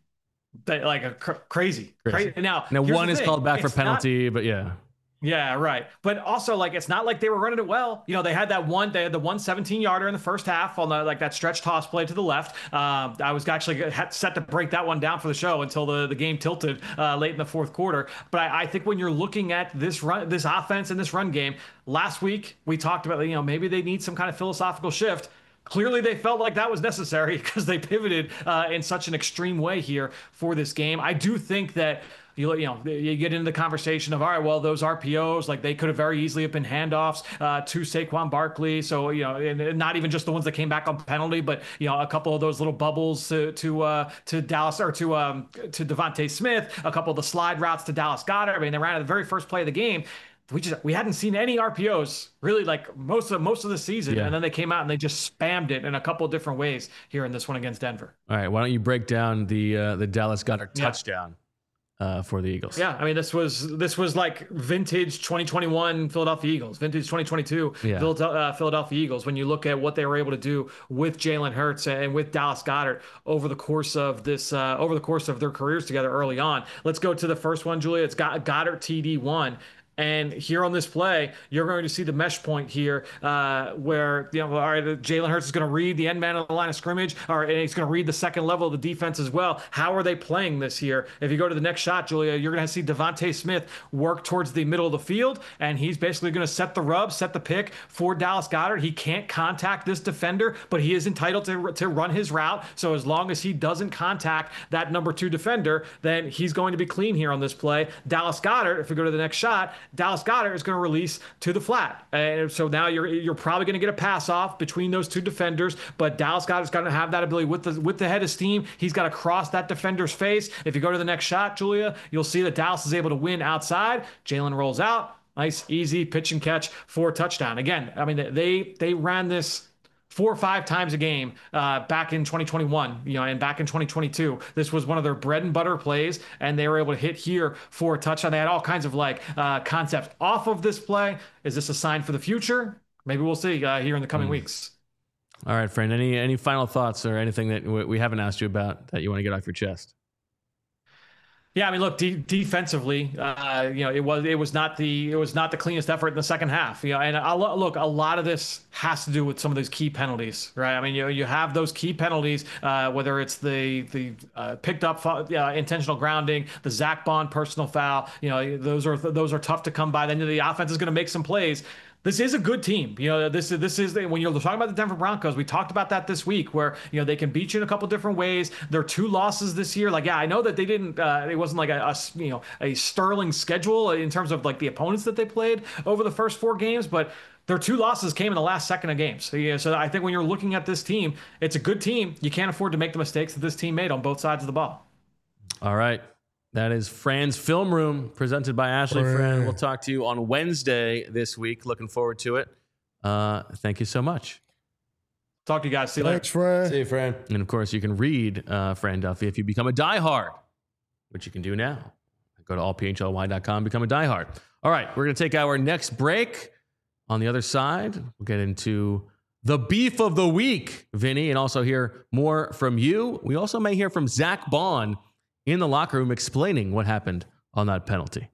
Crazy. Now one is called back for penalty, but yeah. Yeah, right. But also, like, it's not like they were running it well. They had the 17-yarder in the first half on that stretch toss play to the left. I was actually set to break that one down for the show until the game tilted late in the fourth quarter. But I think when you're looking at this offense and this run game, last week we talked about, maybe they need some kind of philosophical shift. Clearly, they felt like that was necessary because they pivoted in such an extreme way here for this game. I do think that you get into the conversation of, all right, well, those RPOs, like they could have very easily have been handoffs to Saquon Barkley. So, and not even just the ones that came back on penalty, but, a couple of those little bubbles to Dallas or to Devontae Smith, a couple of the slide routes to Dallas Goedert. I mean, they ran at the very first play of the game. We hadn't seen any RPOs really like most of the season, and then they came out and they just spammed it in a couple of different ways here in this one against Denver. All right, why don't you break down the Dallas Goedert touchdown? for the Eagles. Yeah, I mean, this was like vintage 2021 Philadelphia Eagles, vintage 2022 Philadelphia Eagles. When you look at what they were able to do with Jalen Hurts and with Dallas Goedert over the course of their careers together early on. Let's go to the first one, Julia. It's got Goedert TD1. And here on this play, you're going to see the mesh point here where, all right, Jalen Hurts is going to read the end man of the line of scrimmage, and he's going to read the second level of the defense as well. How are they playing this here? If you go to the next shot, Julia, you're going to see Devontae Smith work towards the middle of the field, and he's basically going to set the rub, set the pick for Dallas Goedert. He can't contact this defender, but he is entitled to run his route. So as long as he doesn't contact that number 2 defender, then he's going to be clean here on this play. Dallas Goedert, if we go to the next shot, Dallas Goedert is going to release to the flat. And so now you're probably going to get a pass off between those 2 defenders, but Dallas Goedert is going to have that ability with the head of steam. He's got to cross that defender's face. If you go to the next shot, Julia, you'll see that Dallas is able to win outside. Jalen rolls out. Nice, easy pitch and catch for a touchdown. Again, I mean, they ran this 4 or 5 times a game back in 2021, and back in 2022. This was one of their bread and butter plays, and they were able to hit here for a touchdown. They had all kinds of concepts off of this play. Is this a sign for the future? Maybe we'll see here in the coming weeks. All right, friend. Any final thoughts or anything that we haven't asked you about that you want to get off your chest? Yeah, I mean, look, defensively, it was not the cleanest effort in the second half. And look, a lot of this has to do with some of those key penalties, right? I mean, you have those key penalties, whether it's the picked up intentional grounding, the Zach Bond personal foul. Those are tough to come by. Then the offense is going to make some plays. This is a good team. This is when you're talking about the Denver Broncos. We talked about that this week, where they can beat you in a couple different ways. Their 2 losses this year, I know that they didn't. It wasn't like a sterling schedule in terms of the opponents that they played over the first 4 games, but their 2 losses came in the last second of games. So I think when you're looking at this team, it's a good team. You can't afford to make the mistakes that this team made on both sides of the ball. All right. That is Fran's Film Room, presented by Ashley Fran. We'll talk to you on Wednesday this week. Looking forward to it. Thank you so much. Talk to you guys. See you later. Thanks, Fran. See you, Fran. And, of course, you can read Fran Duffy if you become a diehard, which you can do now. Go to allphly.com, become a diehard. All right, we're going to take our next break. On the other side, we'll get into the beef of the week, Vinny, and also hear more from you. We also may hear from Zach Bond in the locker room explaining what happened on that penalty.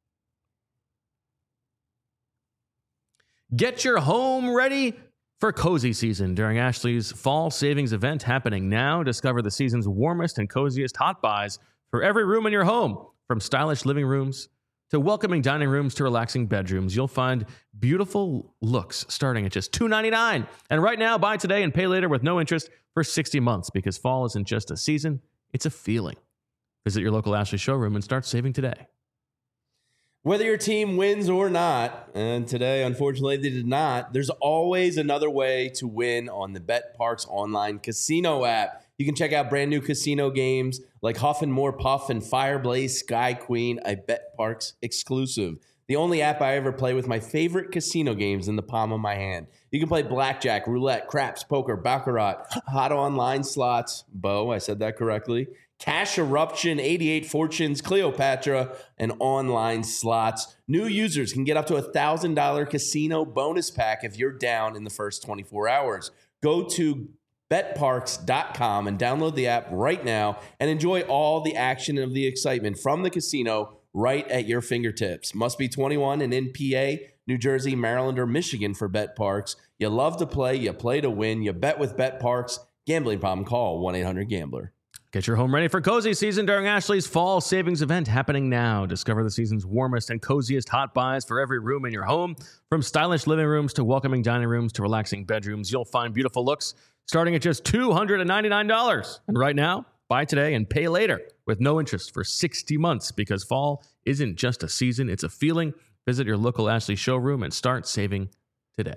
Get your home ready for cozy season during Ashley's fall savings event happening now. Discover the season's warmest and coziest hot buys for every room in your home. From stylish living rooms to welcoming dining rooms to relaxing bedrooms, you'll find beautiful looks starting at just $2.99. And right now, buy today and pay later with no interest for 60 months, because fall isn't just a season, it's a feeling. Visit your local Ashley showroom and start saving today. Whether your team wins or not, and today, unfortunately, they did not, there's always another way to win on the BetParx online casino app. You can check out brand new casino games like Huff and More Puff and Fireblaze Sky Queen, a BetParx exclusive. The only app I ever play with my favorite casino games in the palm of my hand. You can play blackjack, roulette, craps, poker, baccarat, hot online slots. Bo, I said that correctly. Cash Eruption, 88 Fortunes, Cleopatra, and online slots. New users can get up to $1,000 casino bonus pack if you're down in the first 24 hours. Go to betparx.com and download the app right now and enjoy all the action and the excitement from the casino right at your fingertips. Must be 21 and in PA, New Jersey, Maryland, or Michigan for BetParx. You love to play, you play to win, you bet with BetParx. Gambling problem, call 1-800-GAMBLER. Get your home ready for cozy season during Ashley's fall savings event happening now. Discover the season's warmest and coziest hot buys for every room in your home. From stylish living rooms to welcoming dining rooms to relaxing bedrooms, you'll find beautiful looks starting at just $299. And right now, buy today and pay later with no interest for 60 months, because fall isn't just a season, it's a feeling. Visit your local Ashley showroom and start saving today.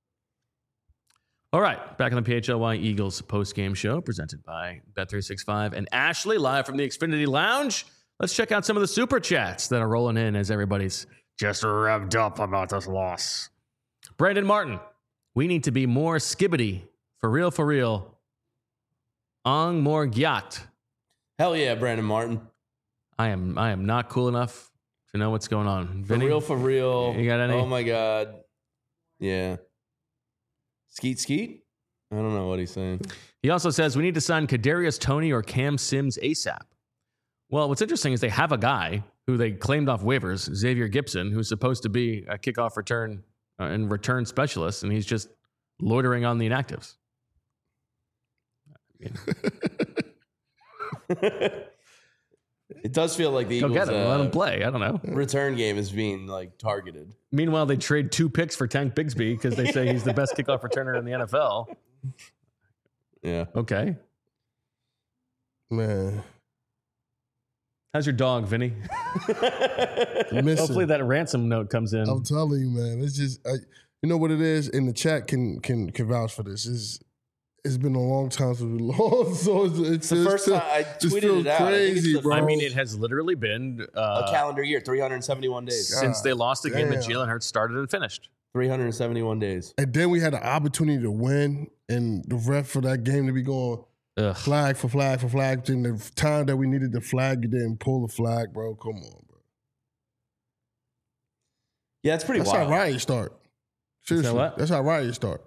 All right, back on the PHLY Eagles post-game show presented by Bet365 and Ashley, live from the Xfinity Lounge. Let's check out some of the super chats that are rolling in as everybody's just revved up about this loss. Brandon Martin, we need to be more skibbity. For real, for real. Ong more gyat. Hell yeah, Brandon Martin. I am not cool enough to know what's going on. Vinny, For real. You got any? Oh my God. Yeah. Skeet? I don't know what he's saying. He also says we need to sign Kadarius Toney or Cam Sims ASAP. Well, what's interesting is they have a guy who they claimed off waivers, Xavier Gipson, who's supposed to be a kickoff return and return specialist, and he's just loitering on the inactives. It does feel like the Go Eagles get him. Let him play. I don't know. return game is being like targeted. Meanwhile, they trade 2 picks for Tank Bigsby because they say he's the best kickoff returner in the NFL. Yeah. Okay. Man. How's your dog, Vinny? Hopefully that ransom note comes in. I'm telling you, man. It's just, you know what it is? And the chat can vouch for this. It's been a long time since we lost, so it's the first time I tweeted it out. Crazy, bro. I mean, it has literally been a calendar year, 371 days. Since they lost the game that Jalen Hurts started and finished. 371 days. And then we had the opportunity to win, and the ref for that game to be going flag for flag for flag. In the time that we needed the flag, you didn't pull the flag, bro. Come on, bro. Yeah, it's pretty That's wild. how riots start. Seriously, that's how riots start.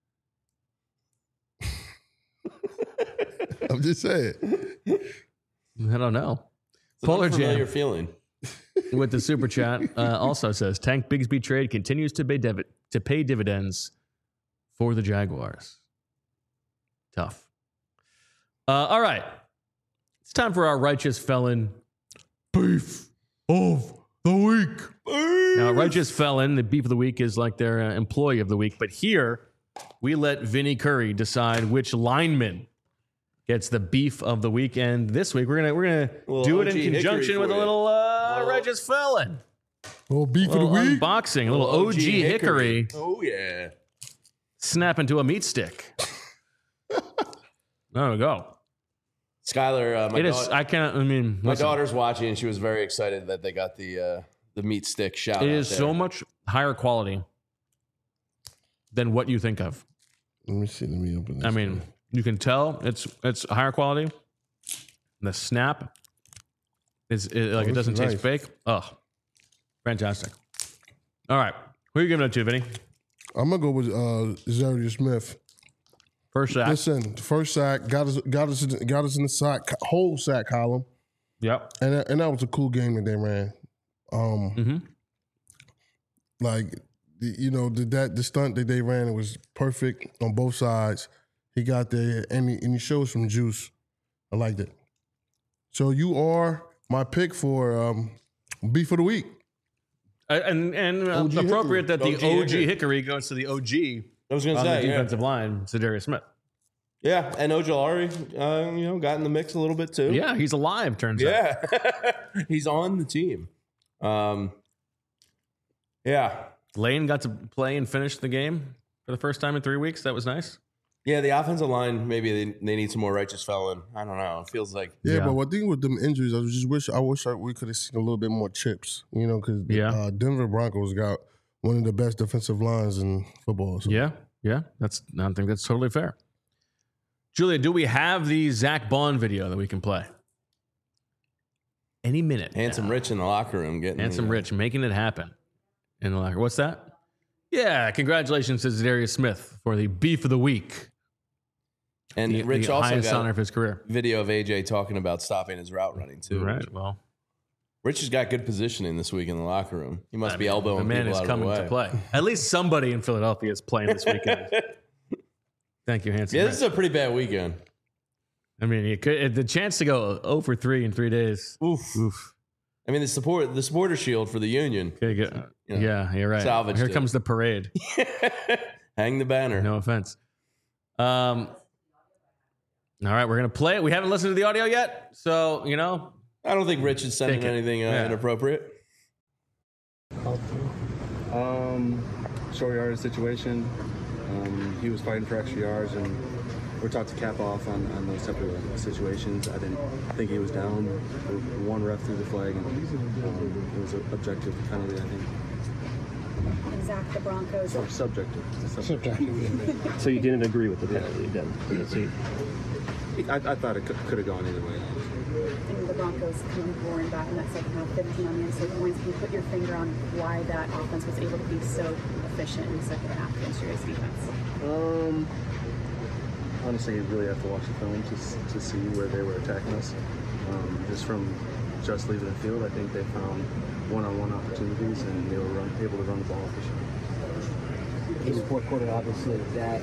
I'm just saying. I don't know. It's Polar an unfamiliar Jam feeling. with the super chat also says Tank Bigsby trade continues to pay dividends for the Jaguars. Tough. All right. It's time for our Righteous Felon Beef of the Week. Now, Righteous Felon, the Beef of the Week is like their Employee of the Week. But here, we let Vinny Curry decide which lineman gets the Beef of the Week. And this week, we're gonna do it in conjunction with a little Righteous Felon. Little Beef of the Week. Unboxing, a little OG Hickory. Oh, yeah. Snap into a meat stick. There we go. Skylar, my daughter's watching, and she was very excited that they got the meat stick shout. It is so much higher quality than what you think of. Let me see. Let me open this. I mean, you can tell it's higher quality. The snap is it doesn't taste fake. Oh, fantastic! All right, who are you giving it to, Vinny? I'm gonna go with Zadarius Smith. First sack. Listen, first sack got us in the whole sack column. Yep. And that was a cool game that they ran. Like the stunt that they ran, it was perfect on both sides. He got there and he showed some juice. I liked it. So you are my pick for Beef of the Week. And appropriate that the OG Hickory goes to the OG. I was going to say, the defensive line, Zadarius Smith. Yeah, and Ojulari, got in the mix a little bit too. Yeah, he's alive, turns out. Yeah, he's on the team. Yeah. Lane got to play and finish the game for the first time in 3 weeks. That was nice. Yeah, the offensive line, maybe they need some more Righteous Felon. I don't know. It feels like... Yeah, but one thing with them injuries, I wish we could have seen a little bit more chips, because Denver Broncos got one of the best defensive lines in football. So. Yeah. I think that's totally fair. Julia, do we have the Zach Bond video that we can play? Any minute. Handsome Rich in the locker room getting Rich making it happen in the locker. What's that? Yeah, congratulations to Zadarius Smith for the Beef of the Week. And Rich the also highest got honor of his career. Video of AJ talking about stopping his route running too. Right. Well, Rich has got good positioning this week in the locker room. He must be elbowing the man people is out coming of the way. to play. At least somebody in Philadelphia is playing this weekend. Thank you, Hanson. Yeah, this is a pretty bad weekend. I mean, the chance to go 0 for 3 in 3 days. Oof. I mean, the supporter shield for the Union. Yeah, you're right. Salvaged Here it. comes the parade. Hang the banner. No offense. All right, we're gonna play it. We haven't listened to the audio yet, so I don't think Rich is sending anything inappropriate. Short yardage situation. He was fighting for extra yards, and we're taught to cap off on those type of situations. I didn't think he was down. One ref threw the flag, and it was an objective penalty, I think. And Zach, the Broncos. Subjective. So you didn't agree with the penalty then? I thought it could have gone either way. And the Broncos come roaring back in that second half, 15 on the inside points. Can you put your finger on why that offense was able to be so efficient in the second half against your guys' defense? Honestly, you really have to watch the film to see where they were attacking us. Just from just leaving the field, I think they found one-on-one opportunities and they were able to run the ball efficiently. In the fourth quarter, obviously, that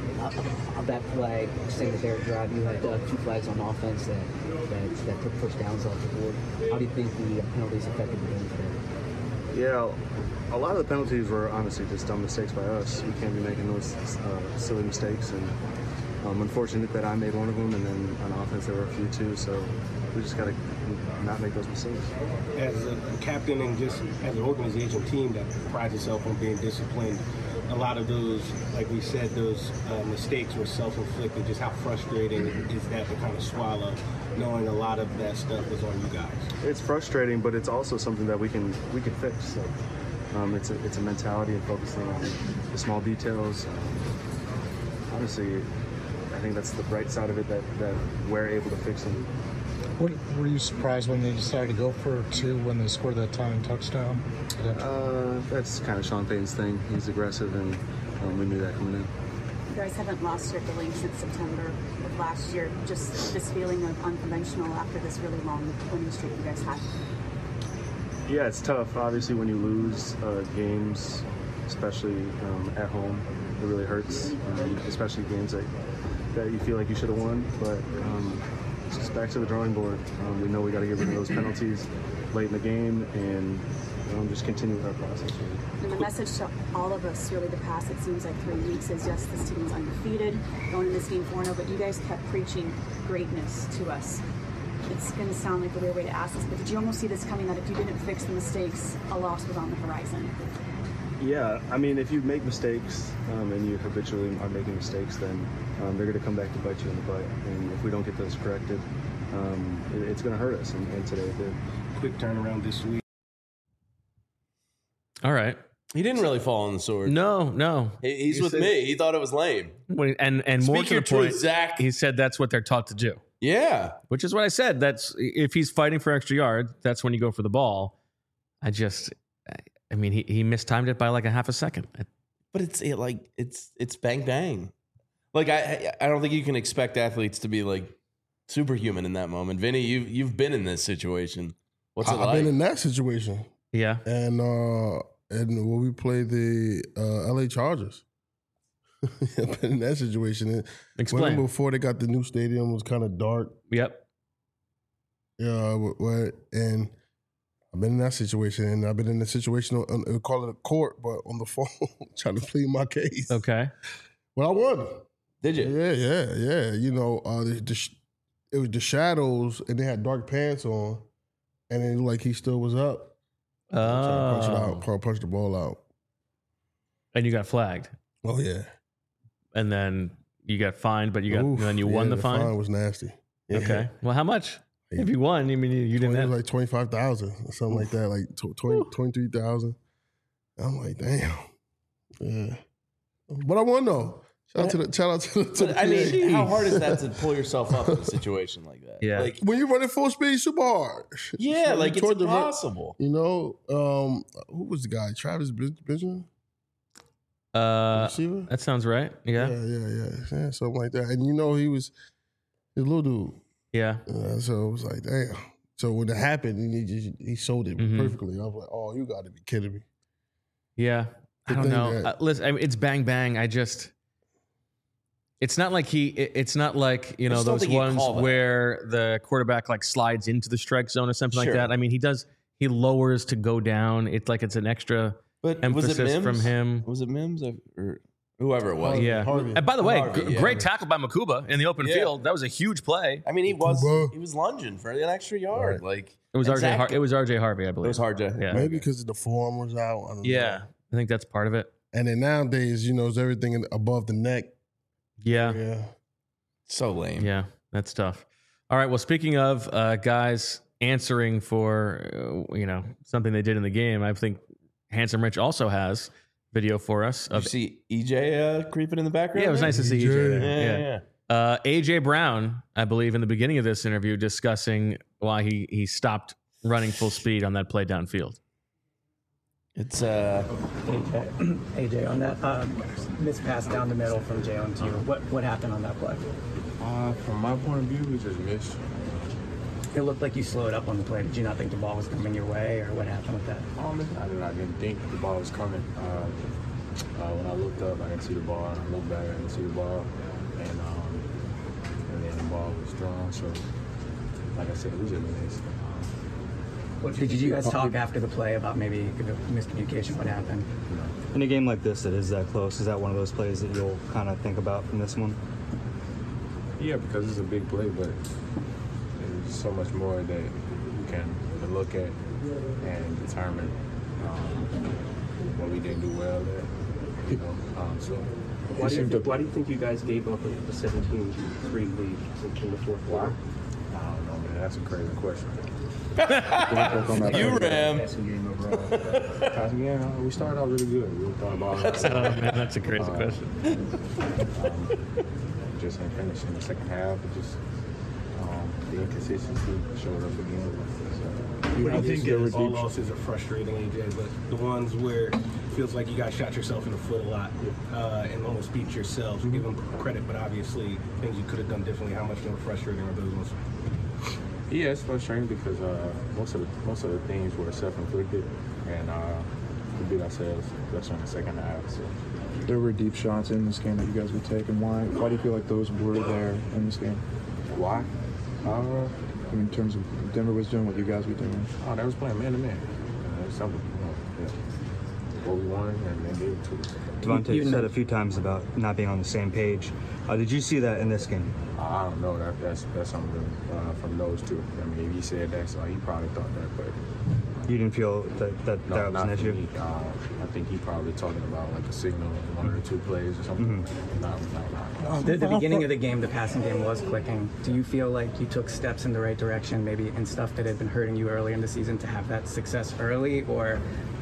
flag, saying that they were driving, you had 2 flags on offense that took first downs off the board. How do you think the penalties affected the game today? Yeah, a lot of the penalties were honestly just dumb mistakes by us. We can't be making those silly mistakes, and unfortunate that I made one of them, and then on offense there were a few too, so we just got to not make those mistakes. As a captain and just as an organization team that prides itself on being disciplined, a lot of those, like we said, those mistakes were self-inflicted. Just how frustrating is that to kind of swallow, knowing a lot of that stuff was on you guys? It's frustrating, but it's also something that we can fix. Like, it's a mentality of focusing on the small details. Honestly, I think that's the bright side of it, that we're able to fix them. Were you surprised when they decided to go for 2 when they scored that tying touchdown? That's kind of Sean Payton's thing. He's aggressive, and we knew that coming in. You guys haven't lost your belief since September of last year. Just this feeling of unconventional after this really long winning streak you guys had. Yeah, it's tough. Obviously, when you lose games, especially at home, it really hurts. Especially games that you feel like you should have won, but it's just back to the drawing board. We know we got to get rid of those penalties late in the game and just continue with our process. Really. And the message to all of us really the past, it seems like 3 weeks, is yes, this team is undefeated, going in this game 4-0, but you guys kept preaching greatness to us. It's going to sound like a weird way to ask this, but did you almost see this coming, that if you didn't fix the mistakes, a loss was on the horizon? Yeah, I mean, if you make mistakes and you habitually are making mistakes, then they're going to come back to bite you in the butt. And if we don't get those corrected, it's going to hurt us. And today it did. Quick turnaround this week. All right. He didn't really fall on the sword. No. He's with me. He thought it was lame. And more Speak to your the point, truth, Zach. he said that's what they're taught to do. Yeah. Which is what I said. That's if he's fighting for extra yard, that's when you go for the ball. I mean, he mistimed it by like a half a second. But it's bang bang. Like I don't think you can expect athletes to be like superhuman in that moment. Vinny, you've been in this situation. What's it like? I've been in that situation. Yeah. And when we played the LA Chargers, I've been in that situation. Explain. Before they got the new stadium, it was kind of dark. Yep. Yeah, and I've been in that situation, and I've been in the situation, we call it a court, but on the phone, trying to plead my case. Okay. Well, I won. Did you? Yeah. You know, it was the shadows, and they had dark pants on, and it looked like he still was up. Trying to punch the ball out. And you got flagged. Oh, yeah. And then you got fined, but then you won the fine? The fine was nasty. Yeah. Okay. Well, how much? If you won, I mean, you didn't have... like 25,000 or something like that, like 23,000. I'm like, damn. Yeah. But I won, though. Shout out to the I mean, how hard is that to pull yourself up in a situation like that? Yeah. Like, when you're running full speed, super hard. yeah, like it's impossible. You know, who was the guy? Travis Benjamin? Receiver? That sounds right. Yeah. Yeah, something like that. And you know, he's a little dude. Yeah. So it was like, damn. So when it happened, he sold it perfectly. I was like, oh, you got to be kidding me. Yeah. I don't know. Listen, I mean, it's bang bang. It's not like it's not like, you know, those ones where the quarterback like slides into the strike zone or something like that. I mean, he lowers to go down. It's like it's an extra emphasis from him. Was it Mims or whoever it was? Yeah. Harvey. And by the way, great tackle by Makuba in the open field. That was a huge play. I mean, he was lunging for an extra yard. Right. Like it was RJ Harvey, I believe. It was RJ. Yeah. Maybe because the forearm was out. I don't know. I think that's part of it. And then nowadays, you know, it's everything above the neck. Yeah. So lame. Yeah, that's tough. All right. Well, speaking of guys answering for, something they did in the game, I think Handsome Rich also has video for us. Did you see EJ creeping in the background? Yeah, it was nice to see EJ there. AJ Brown, I believe, in the beginning of this interview, discussing why he stopped running full speed on that play downfield. It's AJ on that missed pass down the middle from Jalen to you. What happened on that play? From my point of view, we just missed. It looked like you slowed up on the play. Did you not think the ball was coming your way, or what happened with that? I didn't think the ball was coming. When I looked up, I didn't see the ball. I looked back, I didn't see the ball, and then the ball was drawn. So, like I said, we just missed. Did you guys talk after the play about maybe the miscommunication? What happened? In a game like this that is that close, is that one of those plays that you'll kind of think about from this one? Yeah, because it's a big play, but there's so much more that you can look at and determine what we didn't do well there. So why do you think you guys gave up a 17-3 lead in the fourth quarter? I don't know, man. That's a crazy question. You ram. Again, we started out really good. We thought about it. Oh, man, that's a crazy question. Just in finishing the second half, just the inconsistency showed up again. I think all losses are frustrating, AJ, but the ones where it feels like you guys shot yourself in the foot a lot and almost beat yourselves. We give them credit, but obviously things you could have done differently. How much more frustrating are those ones? Yeah, it's frustrating because most of the things were self-inflicted, and we beat ourselves, especially in the second half. So. There were deep shots in this game that you guys would take, and why do you feel like those were there in this game? Why? In terms of Denver was doing what you guys were doing. Oh, they was playing man-to-man. Something, what we wanted, and they gave it to us. Devontae said a few times about not being on the same page. Did you see that in this game? I don't know. That's something from those two. I mean, if he said that, so he probably thought that, but you didn't feel that was an issue? Me. I think he probably talking about like a signal, one or two plays or something. Mm-hmm. The beginning of the game, the passing game was clicking. Do you feel like you took steps in the right direction, maybe in stuff that had been hurting you early in the season, to have that success early, or?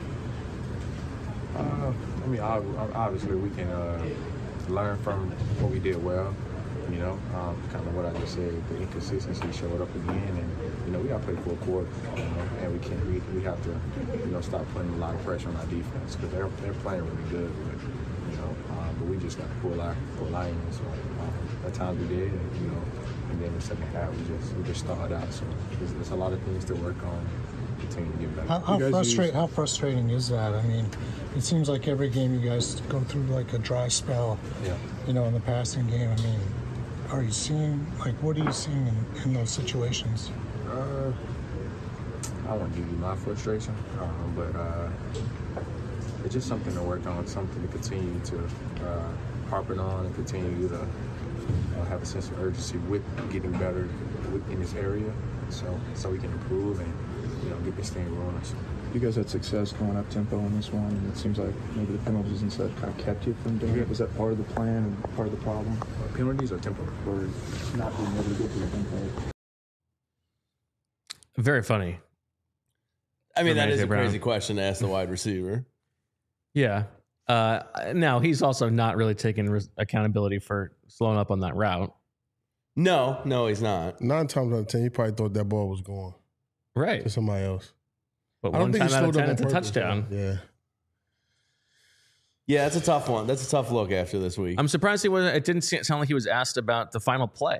I mean, obviously we can learn from what we did well. Kind of what I just said. The inconsistency showed up again, and we got to play full court. And we have to stop putting a lot of pressure on our defense because they're playing really good. But we just got to pull our in. So at times we did, and then the second half we just stalled out. So there's a lot of things to work on. Continue to get better. How frustrating is that? I mean, it seems like every game you guys go through like a dry spell. Yeah. In the passing game. I mean, are you seeing what are you seeing in those situations? I won't give you my frustration, but it's just something to work on, something to continue to harping on and continue to have a sense of urgency with getting better in this area, so we can improve and get this thing rolling. So. You guys had success going up tempo in this one, and it seems like maybe the penalties instead kind of kept you from doing it. Was that part of the plan and part of the problem? Penalties or tempo? Or not being able to get to the tempo? Very funny. I mean, that is a Brown. crazy question to ask the wide receiver. Yeah. Now, he's also not really taking accountability for slowing up on that route. No, he's not. 9 times out of 10, he probably thought that ball was going right to somebody else. But one time out of 10, it's a touchdown. Yeah. Yeah, that's a tough one. That's a tough look after this week. I'm surprised it didn't sound like he was asked about the final play,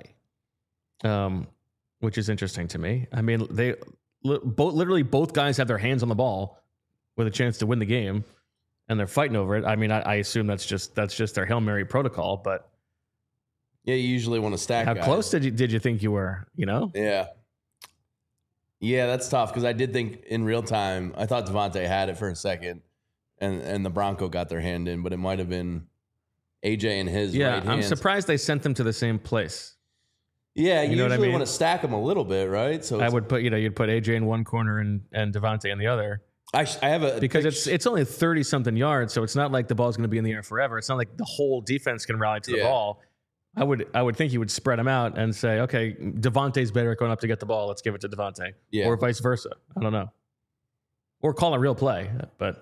which is interesting to me. I mean, literally both guys have their hands on the ball with a chance to win the game, and they're fighting over it. I mean, I assume that's just their Hail Mary protocol, but yeah, you usually want to stack. How guys. close did you think you were? Yeah, that's tough because I did think in real time, I thought Devontae had it for a second, and the Bronco got their hand in, but it might have been AJ and his right hand. I'm surprised they sent them to the same place. Yeah, you usually want to stack them a little bit, right? So I would put, you'd put AJ in one corner and Devontae in the other. I have because it's only 30 something yards, so it's not like the ball's going to be in the air forever. It's not like the whole defense can rally to the ball. I would think you would spread them out and say, okay, Devontae's better at going up to get the ball. Let's give it to Devontae, or vice versa. I don't know, or call a real play. But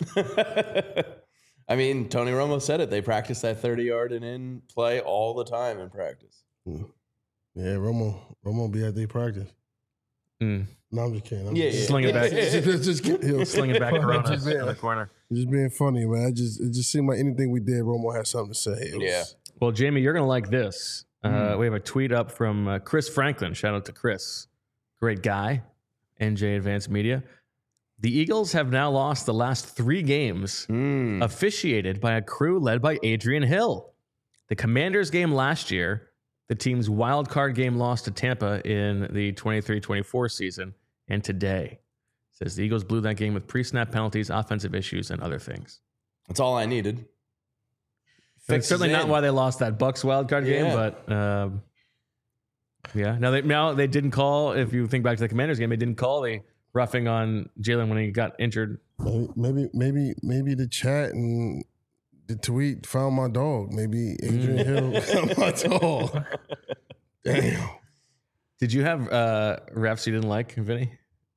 I mean, Tony Romo said it. They practice that 30-yard and in play all the time in practice. Yeah, Romo be at their practice. No, I'm just kidding. I'm Sling it back. just kidding. Sling it back to Rona Just in the corner. Just being funny, man. It just seemed like anything we did, Romo had something to say. It was- Well, Jamie, you're going to like this. We have a tweet up from Chris Franklin. Shout out to Chris. Great guy. NJ Advanced Media. The Eagles have now lost the last 3 games officiated by a crew led by Adrian Hill. The Commanders game last year, the team's wild card game loss to Tampa in the 23-24 season, and today. Says the Eagles blew that game with pre-snap penalties, offensive issues, and other things. That's all I needed. That's certainly not why they lost that Bucs wild card game, but yeah. Now they didn't call. If you think back to the Commanders game, they didn't call the roughing on Jalen when he got injured. Maybe the chat and the tweet found my dog. Maybe Adrian Hill found my dog. Damn. Did you have refs you didn't like, Vinny?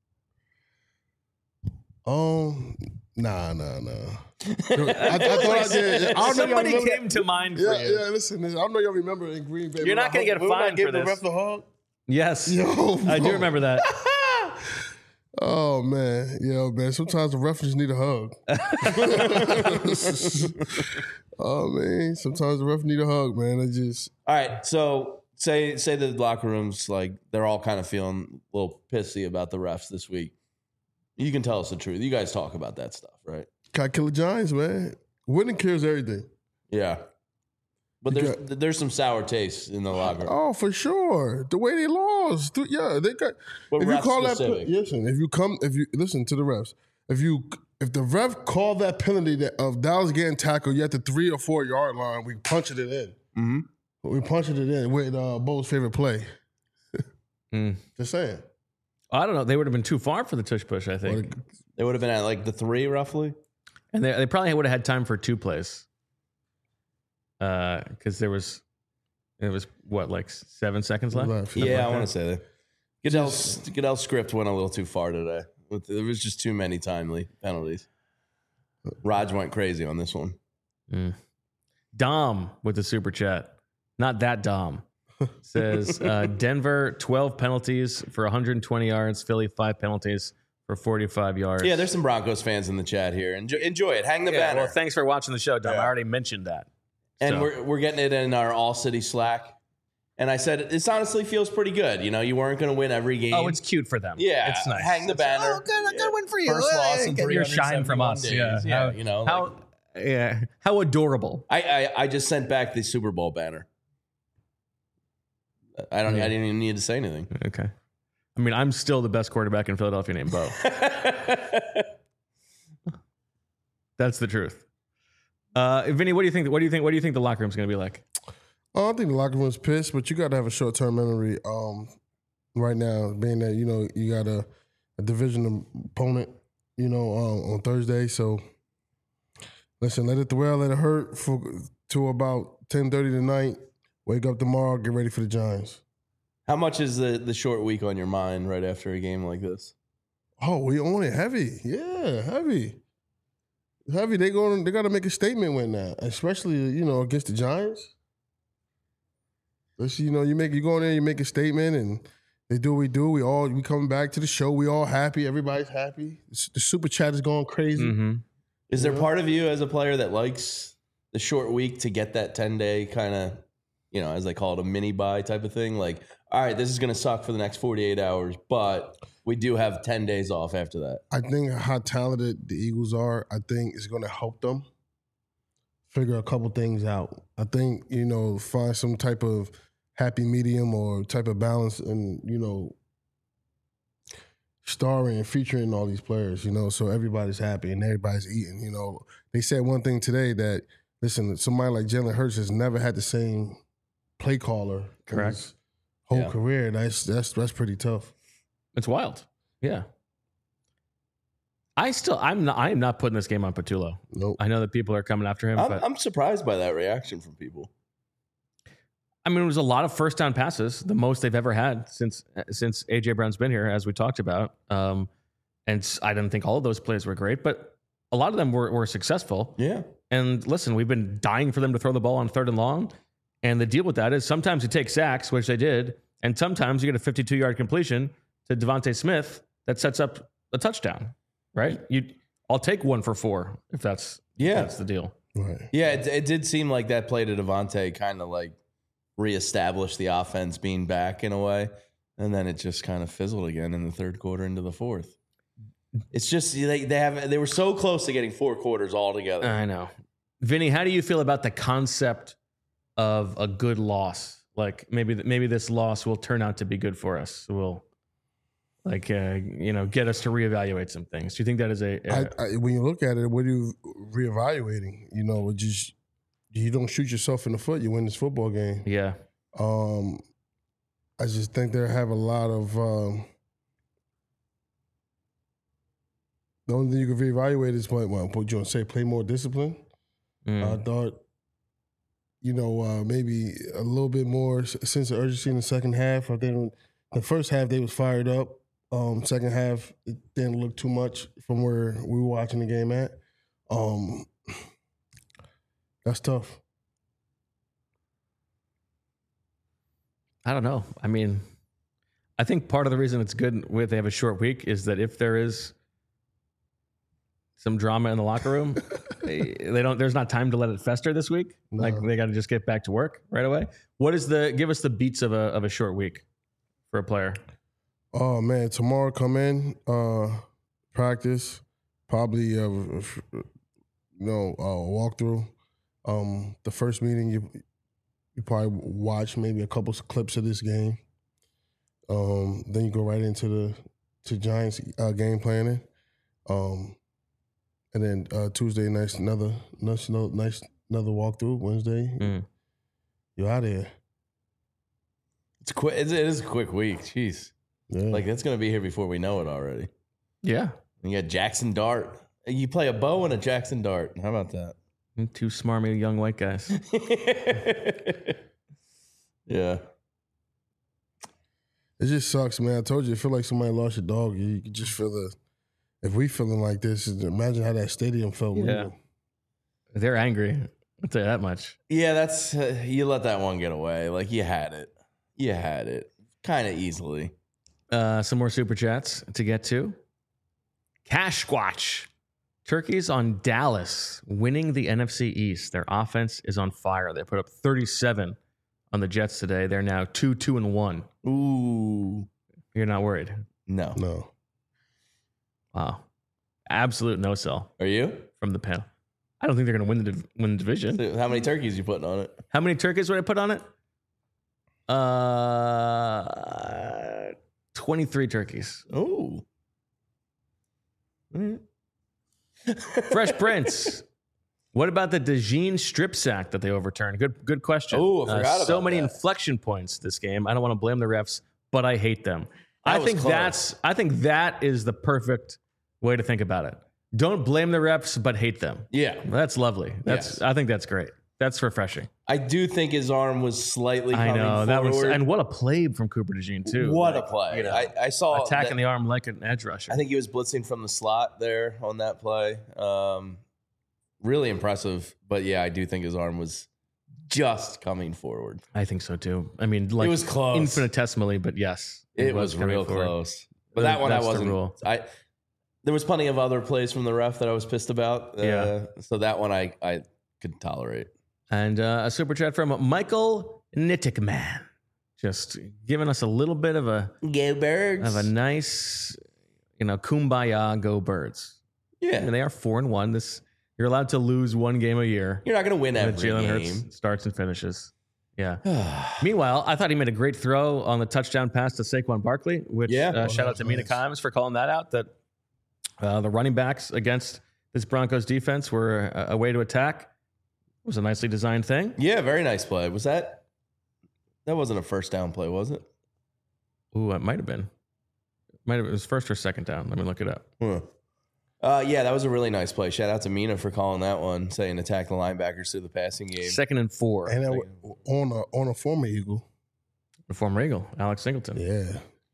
Nah. I thought I did. I Somebody came to mind for you. Yeah, listen. I don't know y'all remember in Green Bay. You're not going to get a fine for the this. ref the hug? Yes. Yo, I do remember that. Oh, man. Man. Sometimes the ref just need a hug. Oh, man. Sometimes the ref need a hug, man. All right, so say the locker rooms, like, they're all kind of feeling a little pissy about the refs this week. You can tell us the truth. You guys talk about that stuff, right? Gotta kill the Giants, man. Winning cures everything. Yeah. But there's some sour taste in the locker room. Oh, for sure. The way they lost. Yeah, they got. But if you ref call specific. if you listen to the refs, if the ref called that penalty of Dallas getting tackled, you at the 3 or 4 yard line, we punched it in. Mm-hmm. We punched it in with Bo's favorite play. Just saying. I don't know. They would have been too far for the tush push, I think. They would have been at like the 3 roughly. And they probably would have had time for 2 plays. Because it was what, like 7 seconds left? Yeah, I want to say that. Goodell's script went a little too far today. There was just too many timely penalties. Raj went crazy on this one. Dom with the super chat. Not that Dom. Says Denver 12 penalties for 120 yards. Philly 5 penalties for 45 yards. Yeah, there's some Broncos fans in the chat here. Enjoy it. Hang the banner. Well, thanks for watching the show, Dom. I already mentioned that. And we're getting it in our All City Slack. And I said, this honestly feels pretty good. You know, you weren't going to win every game. Oh, it's cute for them. Yeah. It's nice. Hang the banner. Oh, good win for you. First loss in Get your shine from 371 us. days. Yeah. You know. How adorable. I just sent back the Super Bowl banner. I didn't even need to say anything. Okay. I mean, I'm still the best quarterback in Philadelphia named Bo. That's the truth. Vinny, what do you think? What do you think the locker room's going to be like? I think the locker room's pissed, but you got to have a short-term memory right now, being that, you got a division opponent, on Thursday. So, listen, let it dwell, let it hurt to about 10:30 tonight. Wake up tomorrow, get ready for the Giants. How much is the short week on your mind right after a game like this? Oh, we own it heavy. Yeah, heavy. Heavy. They got to make a statement with that, especially, against the Giants. You go in there, you make a statement, and they do what we do. We coming back to the show. We all happy. Everybody's happy. The super chat is going crazy. Mm-hmm. Is there part of you as a player that likes the short week to get that 10-day kind of, as they call it, a mini bye type of thing? Like, all right, this is going to suck for the next 48 hours, but we do have 10 days off after that. I think how talented the Eagles are, I think it's going to help them figure a couple things out. I think, find some type of happy medium or type of balance and, starring and featuring all these players, so everybody's happy and everybody's eating, They said one thing today that, listen, somebody like Jalen Hurts has never had the same play caller. Correct. His whole career. That's pretty tough. It's wild. Yeah. I am not putting this game on Patullo. Nope. I know that people are coming after him. I'm surprised by that reaction from people. I mean, it was a lot of first down passes, the most they've ever had since A.J. Brown's been here, as we talked about. And I didn't think all of those plays were great, but a lot of them were successful. Yeah. And listen, we've been dying for them to throw the ball on 3rd and long. And the deal with that is sometimes you take sacks, which they did, and sometimes you get a 52-yard completion to Devontae Smith that sets up a touchdown, right? I'll take 1 for 4 if that's the deal. Right. Yeah, it did seem like that play to Devontae kind of like reestablished the offense being back in a way, and then it just kind of fizzled again in the third quarter into the fourth. It's just they were so close to getting 4 quarters all together. I know. Vinny, how do you feel about the concept of a good loss? Like maybe this loss will turn out to be good for us. Will get us to reevaluate some things. Do you think that is when you look at it, what are you reevaluating? You don't shoot yourself in the foot, you win this football game. Yeah. I just think they have a lot of the only thing you can reevaluate is what you want to say, play more discipline. I thought, maybe a little bit more sense of urgency in the second half. I think the first half they was fired up. Second half it didn't look too much from where we were watching the game at. That's tough. I don't know. I mean, I think part of the reason it's good they have a short week is that if there is some drama in the locker room, there's not time to let it fester this week. No. Like they got to just get back to work right away. Give us the beats of a short week for a player? Oh man, tomorrow come in, practice, probably walkthrough. The first meeting you probably watch maybe a couple clips of this game. Then you go right into the Giants game planning. And then Tuesday another walkthrough. Wednesday, you're out of here. It's quick. It is a quick week. Jeez, like it's gonna be here before we know it already. Yeah, and you got Jackson Dart. You play a bow and a Jackson Dart. How about that? 2 smarmy young white guys. Yeah. It just sucks, man. I told you, I feel like somebody lost your dog. You can just feel if we feeling like this, imagine how that stadium felt. Yeah. They're angry. I'll tell you that much. Yeah, that's you let that one get away. Like you had it kind of easily. Some more super chats to get to. Cash Squatch. Turkeys on Dallas winning the NFC East. Their offense is on fire. They put up 37 on the Jets today. They're now 2-2-1. Ooh. You're not worried? No. Wow. Absolute no sell. Are you? From the panel. I don't think they're going to win the division. So how many turkeys you putting on it? How many turkeys would I put on it? 23 turkeys. Oh. Mm-hmm. Fresh Prince. What about the DeJean strip sack that they overturned? Good question. Oh, I forgot about so many that. Inflection points this game. I don't want to blame the refs, but I hate them. I think that is the perfect way to think about it. Don't blame the refs, but hate them. Yeah. That's lovely. I think that's great. That's refreshing. I do think his arm was slightly coming forward. And what a play from Cooper DeJean too. What a play. I saw attacking the arm like an edge rusher. I think he was blitzing from the slot there on that play. Really impressive. But yeah, I do think his arm was just coming forward. I think so too. I mean, like it was close. Infinitesimally, but yes. It was real close. But that one I wasn't. There was plenty of other plays from the ref that I was pissed about. So that one I could tolerate. And a super chat from Michael Nittickman. Just giving us a little bit of a go Birds. Of a nice, kumbaya, go Birds. Yeah. And they are 4-1. You're allowed to lose one game a year. You're not going to win every Jalen game. Hurts starts and finishes. Yeah. Meanwhile, I thought he made a great throw on the touchdown pass to Saquon Barkley, which shout out to Mina Kimes for calling that out, that the running backs against this Broncos defense were a way to attack. It was a nicely designed thing. Yeah, very nice play. Was that wasn't a first down play, was it? Ooh, it might have been. It was first or second down. Let me look it up. Yeah, that was a really nice play. Shout out to Mina for calling that one, saying attack the linebackers through the passing game. 2nd and 4. And on a former Eagle. A former Eagle, Alex Singleton. Yeah.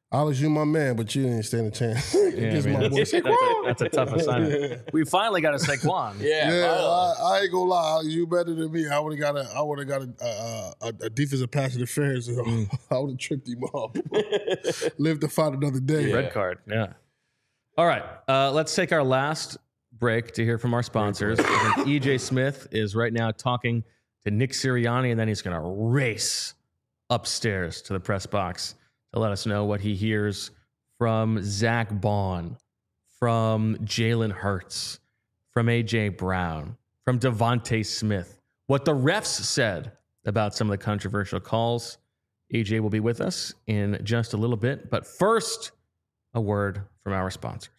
Alex, you my man, but you didn't stand a chance Yeah, against man, my boy Saquon. that's a tough assignment. We finally got a Saquon. I ain't gonna lie, Alex, you better than me. I would have got a defensive pass interference. I would have tripped him up. Live to fight another day. Red card. Yeah. All right. Let's take our last break to hear from our sponsors. I think EJ Smith is right now talking to Nick Sirianni, and then he's going to race upstairs to the press box to let us know what he hears from Zach Bond, from Jalen Hurts, from A.J. Brown, from Devontae Smith, what the refs said about some of the controversial calls. AJ will be with us in just a little bit. But first, a word from our sponsors.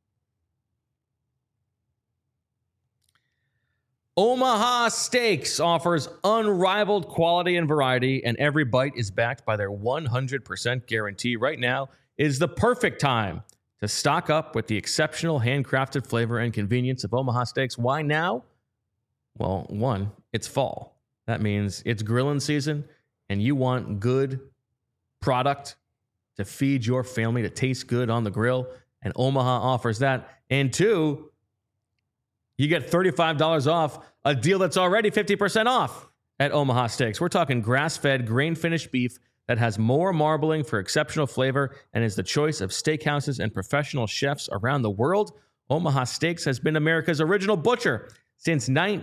Omaha Steaks offers unrivaled quality and variety, and every bite is backed by their 100% guarantee. Right now is the perfect time to stock up with the exceptional handcrafted flavor and convenience of Omaha Steaks. Why now? Well, one, it's fall. That means it's grilling season, and you want good product to feed your family, to taste good on the grill, and Omaha offers that. And two, you get $35 off a deal that's already 50% off at Omaha Steaks. We're talking grass-fed, grain-finished beef that has more marbling for exceptional flavor and is the choice of steakhouses and professional chefs around the world. Omaha Steaks has been America's original butcher since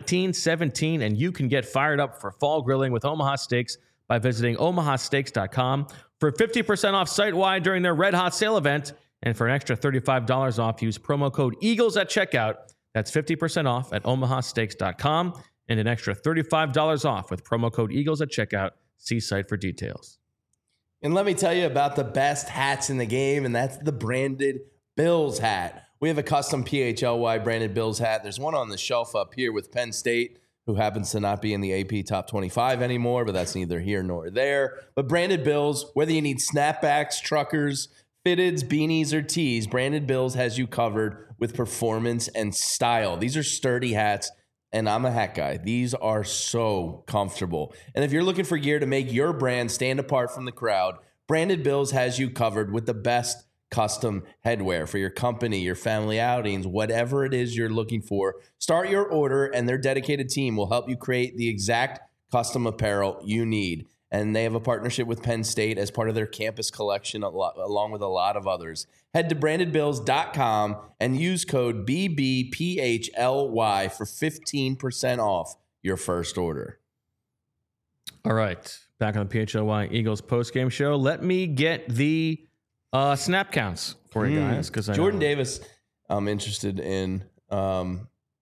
1917, and you can get fired up for fall grilling with Omaha Steaks by visiting omahasteaks.com for 50% off site-wide during their Red Hot Sale event. And for an extra $35 off, use promo code EAGLES at checkout. That's 50% off at omahasteaks.com and an extra $35 off with promo code EAGLES at checkout. See site for details. And let me tell you about the best hats in the game, and that's the branded Bills hat. We have a custom PHLY branded Bills hat. There's one on the shelf up here with Penn State, who happens to not be in the AP Top 25 anymore, but that's neither here nor there. But branded Bills, whether you need snapbacks, truckers, fitteds, beanies, or tees, Branded Bills has you covered with performance and style. These are sturdy hats, and I'm a hat guy. These are so comfortable. And if you're looking for gear to make your brand stand apart from the crowd, Branded Bills has you covered with the best custom headwear for your company, your family outings, whatever it is you're looking for. Start your order, and their dedicated team will help you create the exact custom apparel you need. And they have a partnership with Penn State as part of their campus collection, along with a lot of others. Head to brandedbills.com and use code BBPHLY for 15% off your first order. All right. Back on the PHLY Eagles postgame show. Let me get the snap counts for you guys. Because Jordan Davis, I'm interested in. And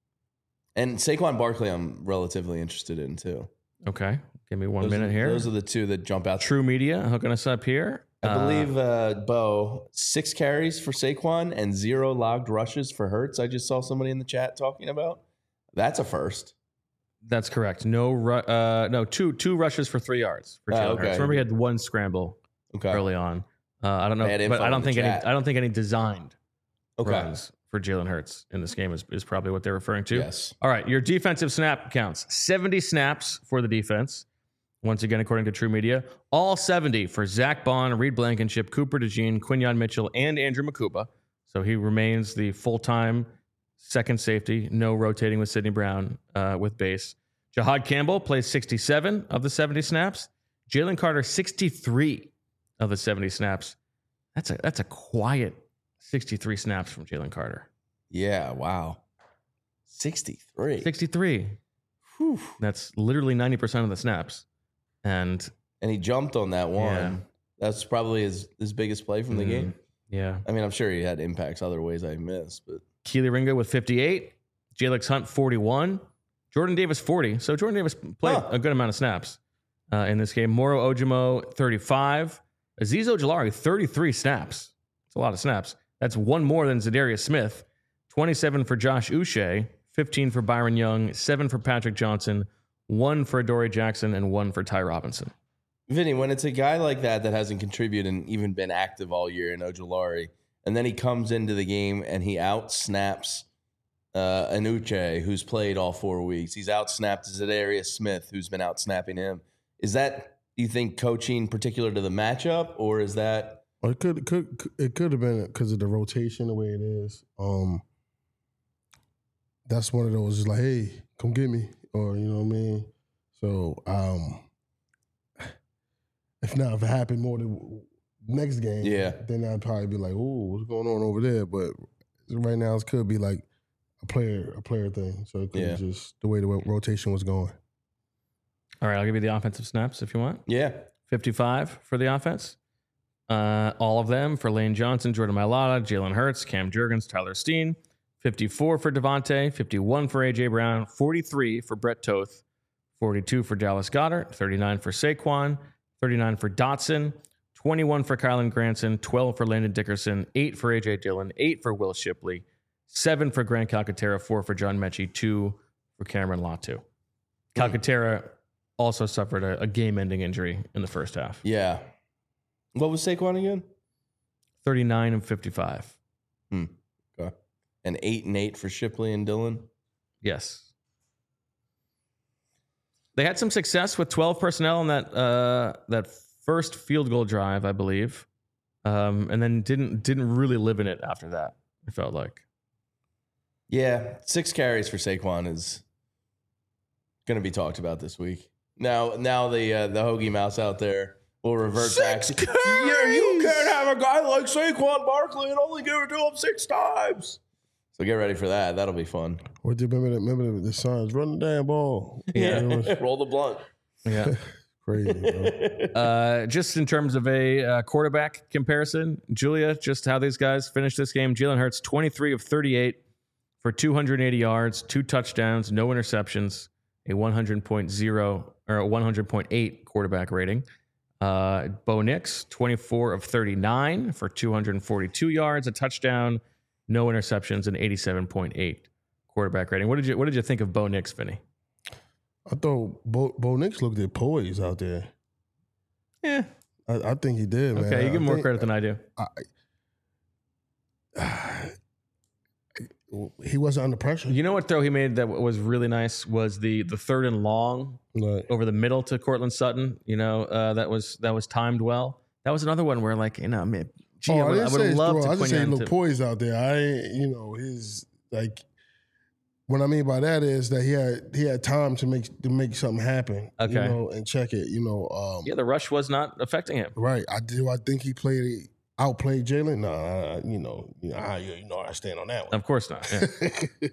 Saquon Barkley, I'm relatively interested in too. Okay. Give me one minute here. Those are the two that jump out. True Media hooking us up here. I believe, Bo, 6 carries for Saquon and 0 logged rushes for Hurts. I just saw somebody in the chat talking about. That's a first. That's correct. No, two rushes for 3 yards for Jalen Hurts. Remember, he had 1 scramble early on. I don't know, but I don't think any designed runs for Jalen Hurts in this game is probably what they're referring to. Yes. All right, your defensive snap counts: 70 snaps for the defense. Once again, according to True Media, all 70 for Zach Bond, Reed Blankenship, Cooper DeJean, Quinyon Mitchell, and Andrew Makuba. So he remains the full-time second safety, no rotating with Sidney Brown with base. Jahad Campbell plays 67 of the 70 snaps. Jalen Carter, 63 of the 70 snaps. That's a quiet 63 snaps from Jalen Carter. Yeah, wow. 63. 63. Whew. That's literally 90% of the snaps. And he jumped on that one. Yeah. That's probably his biggest play from the game. Yeah. I mean, I'm sure he had impacts other ways I missed, but Keely Ringo with 58, Jalex Hunt 41, Jordan Davis 40. So Jordan Davis played a good amount of snaps in this game. Moro Ojimo 35, Azeez Ojulari 33 snaps. It's a lot of snaps. That's 1 more than Zadarius Smith. 27 for Josh Uche, 15 for Byron Young, 7 for Patrick Johnson, 1 for Adoree Jackson, and 1 for Ty Robinson. Vinny, when it's a guy like that hasn't contributed and even been active all year in Ojulari, and then he comes into the game and he out-snaps Anuche, who's played all 4 weeks. He's out-snapped Zadarius Smith, who's been out-snapping him. Is that, you think, coaching particular to the matchup, or is that Or it could have been because of the rotation the way it is. That's one of those just like, hey, come get me, or you know what I mean. So if it happened more than next game, then I'd probably be like, oh, what's going on over there? But right now it could be like a player thing. So it could be just the way the rotation was going. All right, I'll give you the offensive snaps if you want. Yeah. 55 for the offense. All of them for Lane Johnson, Jordan Mailata, Jalen Hurts, Cam Jurgens, Tyler Steen. 54 for Devontae, 51 for A.J. Brown, 43 for Brett Toth, 42 for Dallas Goedert, 39 for Saquon, 39 for Dotson, 21 for Kylan Granson, 12 for Landon Dickerson, 8 for A.J. Dillon, 8 for Will Shipley, 7 for Grant Calcaterra, 4 for John Mechie, 2 for Cameron Latu. Calcaterra also suffered a game-ending injury in the first half. Yeah. What was Saquon again? 39 and 55. Okay. And 8 and 8 for Shipley and Dillon? Yes. They had some success with 12 personnel on that first field goal drive, I believe, and then didn't really live in it after that. It felt like. Yeah, 6 carries for Saquon is going to be talked about this week. Now the Hoagie Mouse out there will revert back. Yeah, you can't have a guy like Saquon Barkley and only give it to him 6 times. So get ready for that. That'll be fun. What do you remember the signs? Run the damn ball. Yeah, roll the blunt. Yeah. Crazy, bro. Just in terms of a quarterback comparison, Julia, just how these guys finished this game. Jalen Hurts, 23 of 38 for 280 yards, 2 touchdowns, no interceptions, a 100.0 or a 100.8 quarterback rating. Bo Nix, 24 of 39 for 242 yards, a touchdown, no interceptions, and 87.8 quarterback rating. What did you think of Bo Nix, Vinny? I thought Bo Nix looked at poise out there. Yeah. I think he did, man. Okay, you give him more credit than I do. He wasn't under pressure. You know what throw he made that was really nice was the third and long over the middle to Cortland Sutton. You know, that was timed well. That was another one where, like, you know, I mean, I would have loved to. I just say he looked poised out there. His like. What I mean by that is that he had time to make something happen. Okay. You know, and check it. You know. The rush was not affecting him. Right. I think he outplayed Jalen. Nah. You know. I stand on that one. Of course not. Yeah.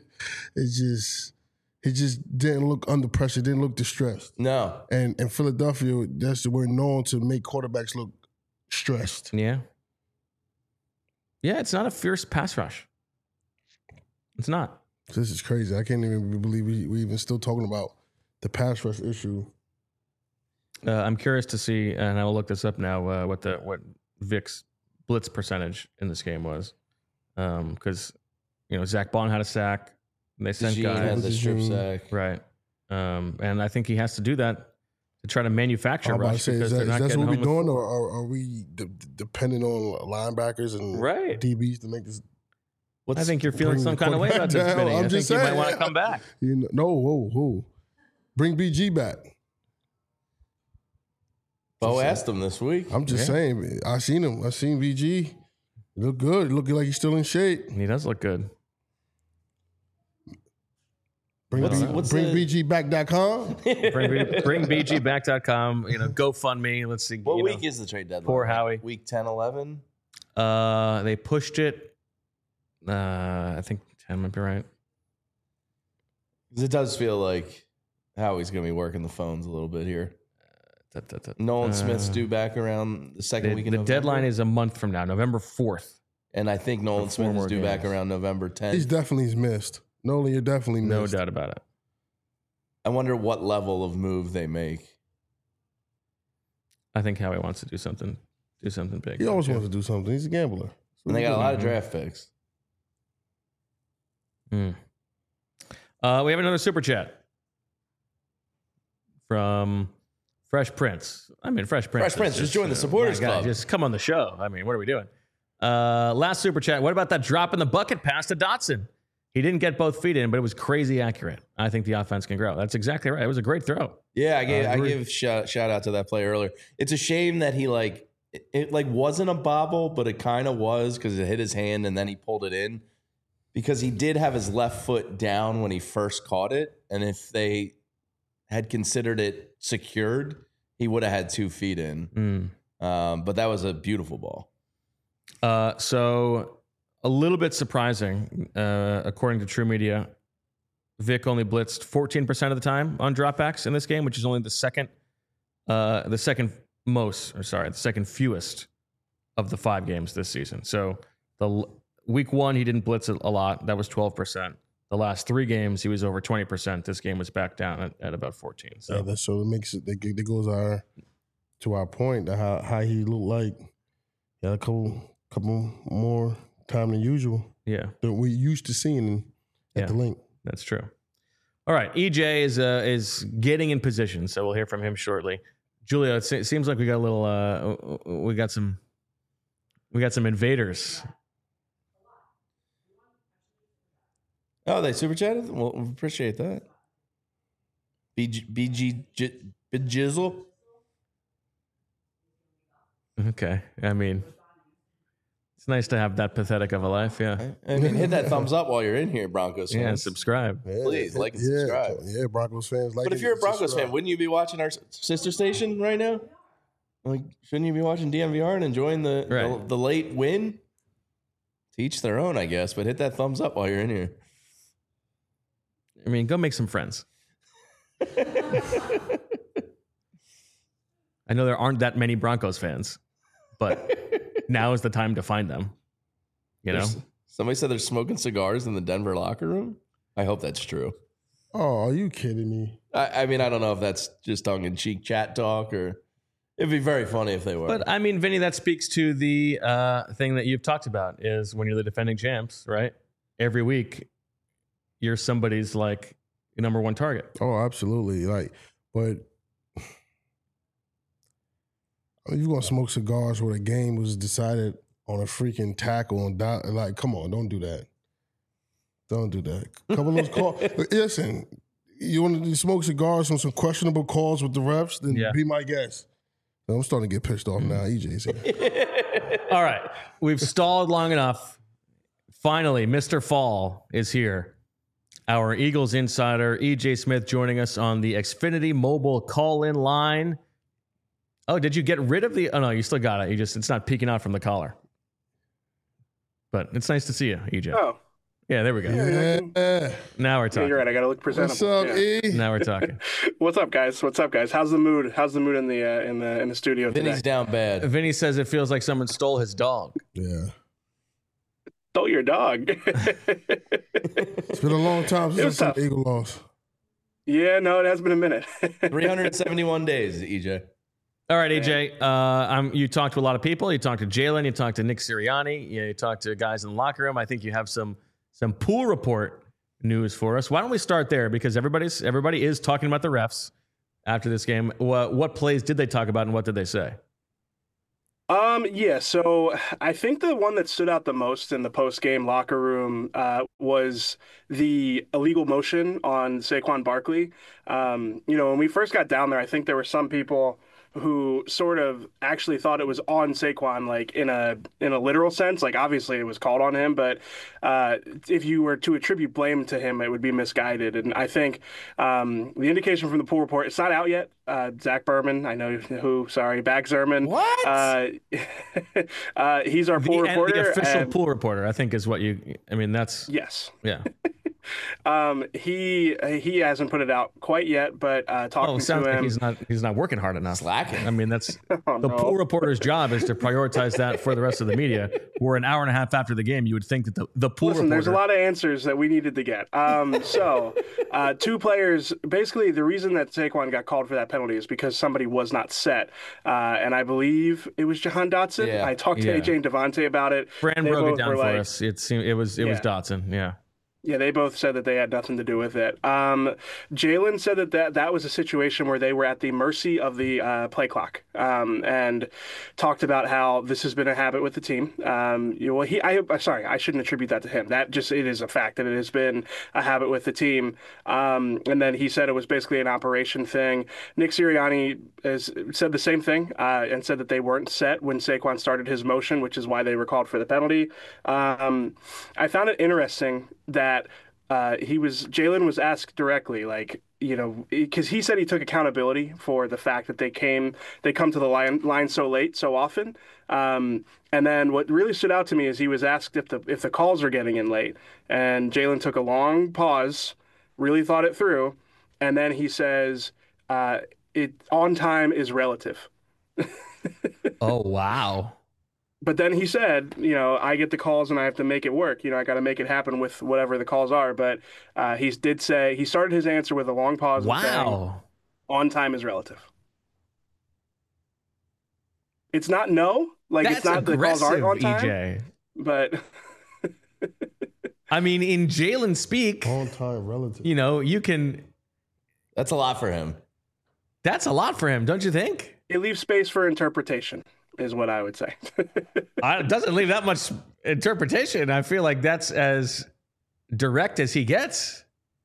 He just didn't look under pressure. Didn't look distressed. No. And in Philadelphia, we're known to make quarterbacks look stressed. Yeah. Yeah, it's not a fierce pass rush. It's not. This is crazy. I can't even believe we even still talking about the pass rush issue. I'm curious to see, and I will look this up now, what Vic's blitz percentage in this game was. Because, Zach Bond had a sack. And they sent guys. Had the strip sack. Right. And I think he has to do that to try to manufacture rush. Is that what we're doing, or are we depending on linebackers and DBs to make this? I think you're feeling some kind of way about this, Vinny. I think you might want to come back. Who? Bring BG back. Bo asked him this week. I'm just saying. I seen him. I seen BG. He look good. He looking like he's still in shape. He does look good. Bring BGback.com. Bring BGback.com. GoFundMe. Let's see. What week is the trade deadline? Poor Howie. Week 10, 11? They pushed it. I think 10 might be right. Because it does feel like Howie's going to be working the phones a little bit here. Nolan Smith's due back around the second week of November. The deadline is a month from now, November 4th. And I think Nolan Smith is due back around November 10th. He's definitely missed. Nolan, you're definitely missed. No doubt about it. I wonder what level of move they make. I think Howie wants to do something big. He always wants to do something. He's a gambler. And they got a lot of draft picks. We have another super chat from Fresh Prince. Fresh Prince. Just join the supporters club. Just come on the show. What are we doing? Last super chat. What about that drop in the bucket pass to Dotson? He didn't get both feet in, but it was crazy accurate. I think the offense can grow. That's exactly right. It was a great throw. Yeah, I gave shout out to that play earlier. It's a shame that he it like wasn't a bobble, but it kind of was because it hit his hand and then he pulled it in because he did have his left foot down when he first caught it. And if they had considered it secured, he would have had 2 feet in. But that was a beautiful ball. So a little bit surprising, according to True Media, Vic only blitzed 14% of the time on dropbacks in this game, which is only the second fewest of the 5 games this season. So the week 1, he didn't blitz a lot. That was 12%. The last 3 games, he was over 20%. This game was back down at about 14. So, yeah, so it makes it. That goes to our point how he looked like he had a couple more time than usual. Yeah, that we're used to seeing at the link. That's true. All right, EJ is getting in position, so we'll hear from him shortly. Julia, it seems like we got a little. We got some invaders. Oh, they super chatted? Well, we appreciate that. BG Jizzle. Okay. I mean, it's nice to have that pathetic of a life. Yeah. I mean, hit that thumbs up while you're in here, Broncos fans. Yeah, subscribe. Please, like and subscribe. Yeah, Broncos fans like it. But if you're a Broncos fan, wouldn't you be watching our sister station right now? Like, shouldn't you be watching DMVR and enjoying the late win? To each their own, I guess. But hit that thumbs up while you're in here. I mean, go make some friends. I know there aren't that many Broncos fans, but now is the time to find them. You know? Somebody said they're smoking cigars in the Denver locker room. I hope that's true. Oh, are you kidding me? I mean, I don't know if that's just tongue-in-cheek chat talk or it'd be very funny if they were. But I mean, Vinny, that speaks to the thing that you've talked about is when you're the defending champs, right? Every week, you're somebody's like number 1 target. Oh, absolutely. But you're going to smoke cigars where the game was decided on a freaking tackle and like, come on, don't do that. Don't do that. A couple of those calls. Listen, you want to smoke cigars on some questionable calls with the refs? Then be my guest. I'm starting to get pissed off now. EJ's here. All right. We've stalled long enough. Finally, Mr. Fall is here. Our Eagles insider, EJ Smith, joining us on the Xfinity mobile call-in line. Oh, did you get rid of the... Oh, no, you still got it. It's not peeking out from the collar. But it's nice to see you, EJ. Oh. Yeah, there we go. Yeah. Now we're talking. You're right. I got to look presentable. What's up, E? Now we're talking. What's up, guys? How's the mood? How's the mood in the studio today? Vinny's down bad. Vinny says it feels like someone stole his dog. Yeah. Stole your dog. It's been a long time since the Eagle lost. Yeah, no, it has been a minute. 371 days, EJ. All right, EJ. You talked to a lot of people. You talked to Jalen. You talked to Nick Sirianni. You talked to guys in the locker room. I think you have some pool report news for us. Why don't we start there? Because everybody is talking about the refs after this game. What plays did they talk about, and what did they say? Yeah, so I think the one that stood out the most in the post-game locker room was the illegal motion on Saquon Barkley. When we first got down there, I think there were some people who sort of actually thought it was on Saquon, like in a literal sense. Like, obviously it was called on him, but if you were to attribute blame to him, it would be misguided. And I think the indication from the pool report, it's not out yet. Zach Berman, I know who, sorry, Bag Zerman. What? He's our pool reporter. The official pool reporter, I think, is what that's... Yes. Yeah. He hasn't put it out quite yet, but talking it sounds to him, like he's not working hard enough. Slacking. I mean, that's the pool reporter's job is to prioritize that for the rest of the media. Where an hour and a half after the game, you would think that the pool reporter. There's a lot of answers that we needed to get. So 2 players. Basically, the reason that Saquon got called for that penalty is because somebody was not set, and I believe it was Jahan Dotson. Yeah. I talked to AJ and Devontae about it. Fran broke it down for us. It was Dotson. Yeah. Yeah, they both said that they had nothing to do with it. Jalen said that was a situation where they were at the mercy of the play clock, and talked about how this has been a habit with the team. Sorry, I shouldn't attribute that to him. It is a fact that it has been a habit with the team. And then he said it was basically an operation thing. Nick Sirianni has said the same thing, and said that they weren't set when Saquon started his motion, which is why they were called for the penalty. I found it interesting that Jalen was asked directly, like, because he said he took accountability for the fact that they come to the line so late so often. And then what really stood out to me is he was asked if the calls are getting in late, and Jalen took a long pause, really thought it through, and then he says, on time is relative. Oh, wow. But then he said, I get the calls and I have to make it work. I got to make it happen with whatever the calls are. But he did say he started his answer with a long pause. Wow. On time is relative. It's not no. Like, That's it's not the calls aren't on time. EJ. But I mean, in Jalen speak, on time relative. You can. That's a lot for him. That's a lot for him, don't you think? It leaves space for interpretation, is what I would say. It doesn't leave that much interpretation. I feel like that's as direct as he gets.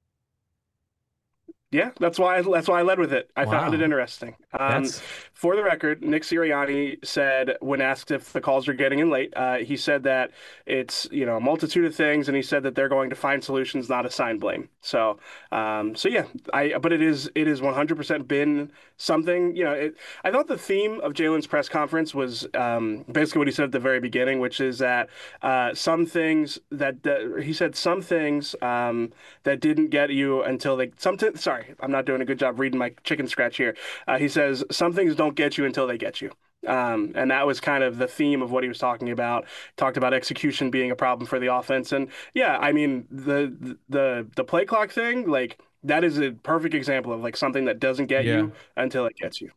Yeah, that's why I led with it. I found it interesting. For the record, Nick Sirianni said when asked if the calls are getting in late, he said that it's a multitude of things, and he said that they're going to find solutions, not assign blame. So yeah, but it is 100% been something. I thought the theme of Jalen's press conference was basically what he said at the very beginning, which is that some things that didn't get you until they Sorry, I'm not doing a good job reading my chicken scratch here. He says some things don't get you until they get you. And that was kind of the theme of what he was talking about. Talked about execution being a problem for the offense. And yeah, I mean, the play clock thing, like, that is a perfect example of like something that doesn't get you until it gets you.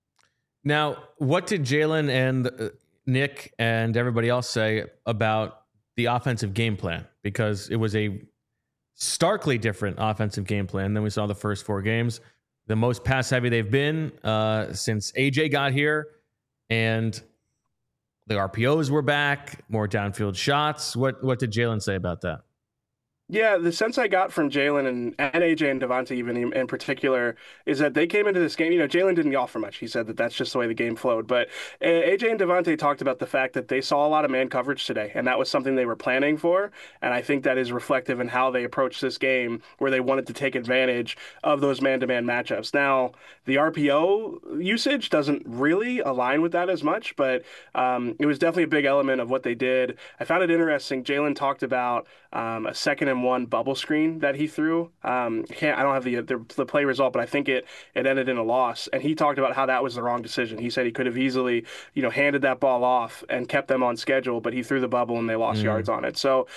Now, what did Jalen and Nick and everybody else say about the offensive game plan? Because it was a starkly different offensive game plan than we saw the first 4 games. The most pass heavy they've been since AJ got here, and the RPOs were back, more downfield shots. What did Jalen say about that? Yeah, the sense I got from Jalen and AJ and Devontae even in particular is that they came into this game, Jalen didn't offer much. He said that that's just the way the game flowed. But AJ and Devontae talked about the fact that they saw a lot of man coverage today, and that was something they were planning for. And I think that is reflective in how they approached this game, where they wanted to take advantage of those man-to-man matchups. Now, the RPO usage doesn't really align with that as much, but it was definitely a big element of what they did. I found it interesting. Jalen talked about a 2nd and 1 bubble screen that he threw. I don't have the play result, but I think it ended in a loss. And he talked about how that was the wrong decision. He said he could have easily, handed that ball off and kept them on schedule, but he threw the bubble and they lost yards on it. So,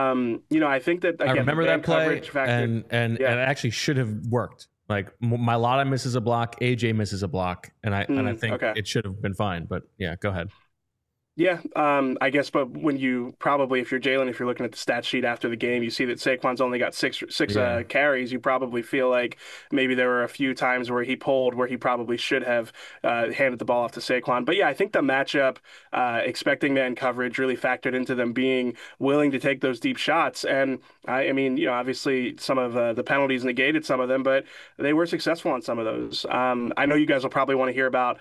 I think that again, I remember that play, factor, and it actually should have worked. Like, Mailata misses a block, AJ misses a block, and I think it should have been fine. But yeah, go ahead. Yeah, I guess, but when you probably, if you're Jalen, if you're looking at the stat sheet after the game, you see that Saquon's only got six carries. You probably feel like maybe there were a few times where he pulled where he probably should have handed the ball off to Saquon. But yeah, I think the matchup, expecting man coverage, really factored into them being willing to take those deep shots. And I mean, obviously some of the penalties negated some of them, but they were successful on some of those. I know you guys will probably want to hear about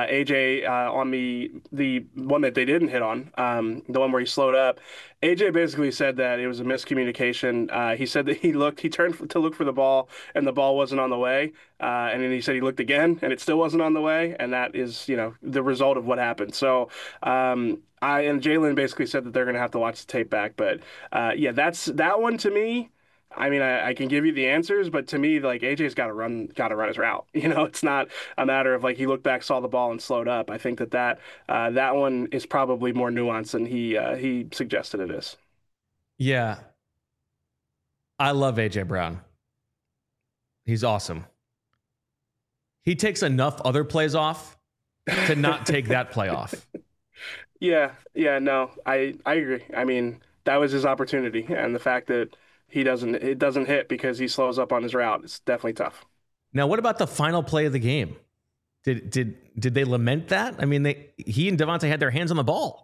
AJ on the one that they didn't hit on, the one where he slowed up. AJ basically said that it was a miscommunication. He said that he turned to look for the ball and the ball wasn't on the way. And then he said he looked again and it still wasn't on the way. And that is, the result of what happened. So, and Jalen basically said that they're going to have to watch the tape back. But yeah, that one to me. I mean, I can give you the answers, but to me, like, AJ's got to run his route. It's not a matter of like he looked back, saw the ball, and slowed up. I think that one is probably more nuanced than he suggested it is. Yeah, I love AJ Brown. He's awesome. He takes enough other plays off to not take that play off. Yeah, no, I agree. I mean, that was his opportunity, and the fact that it doesn't hit because he slows up on his route. It's definitely tough. Now, what about the final play of the game? Did they lament that? I mean, he and Devontae had their hands on the ball.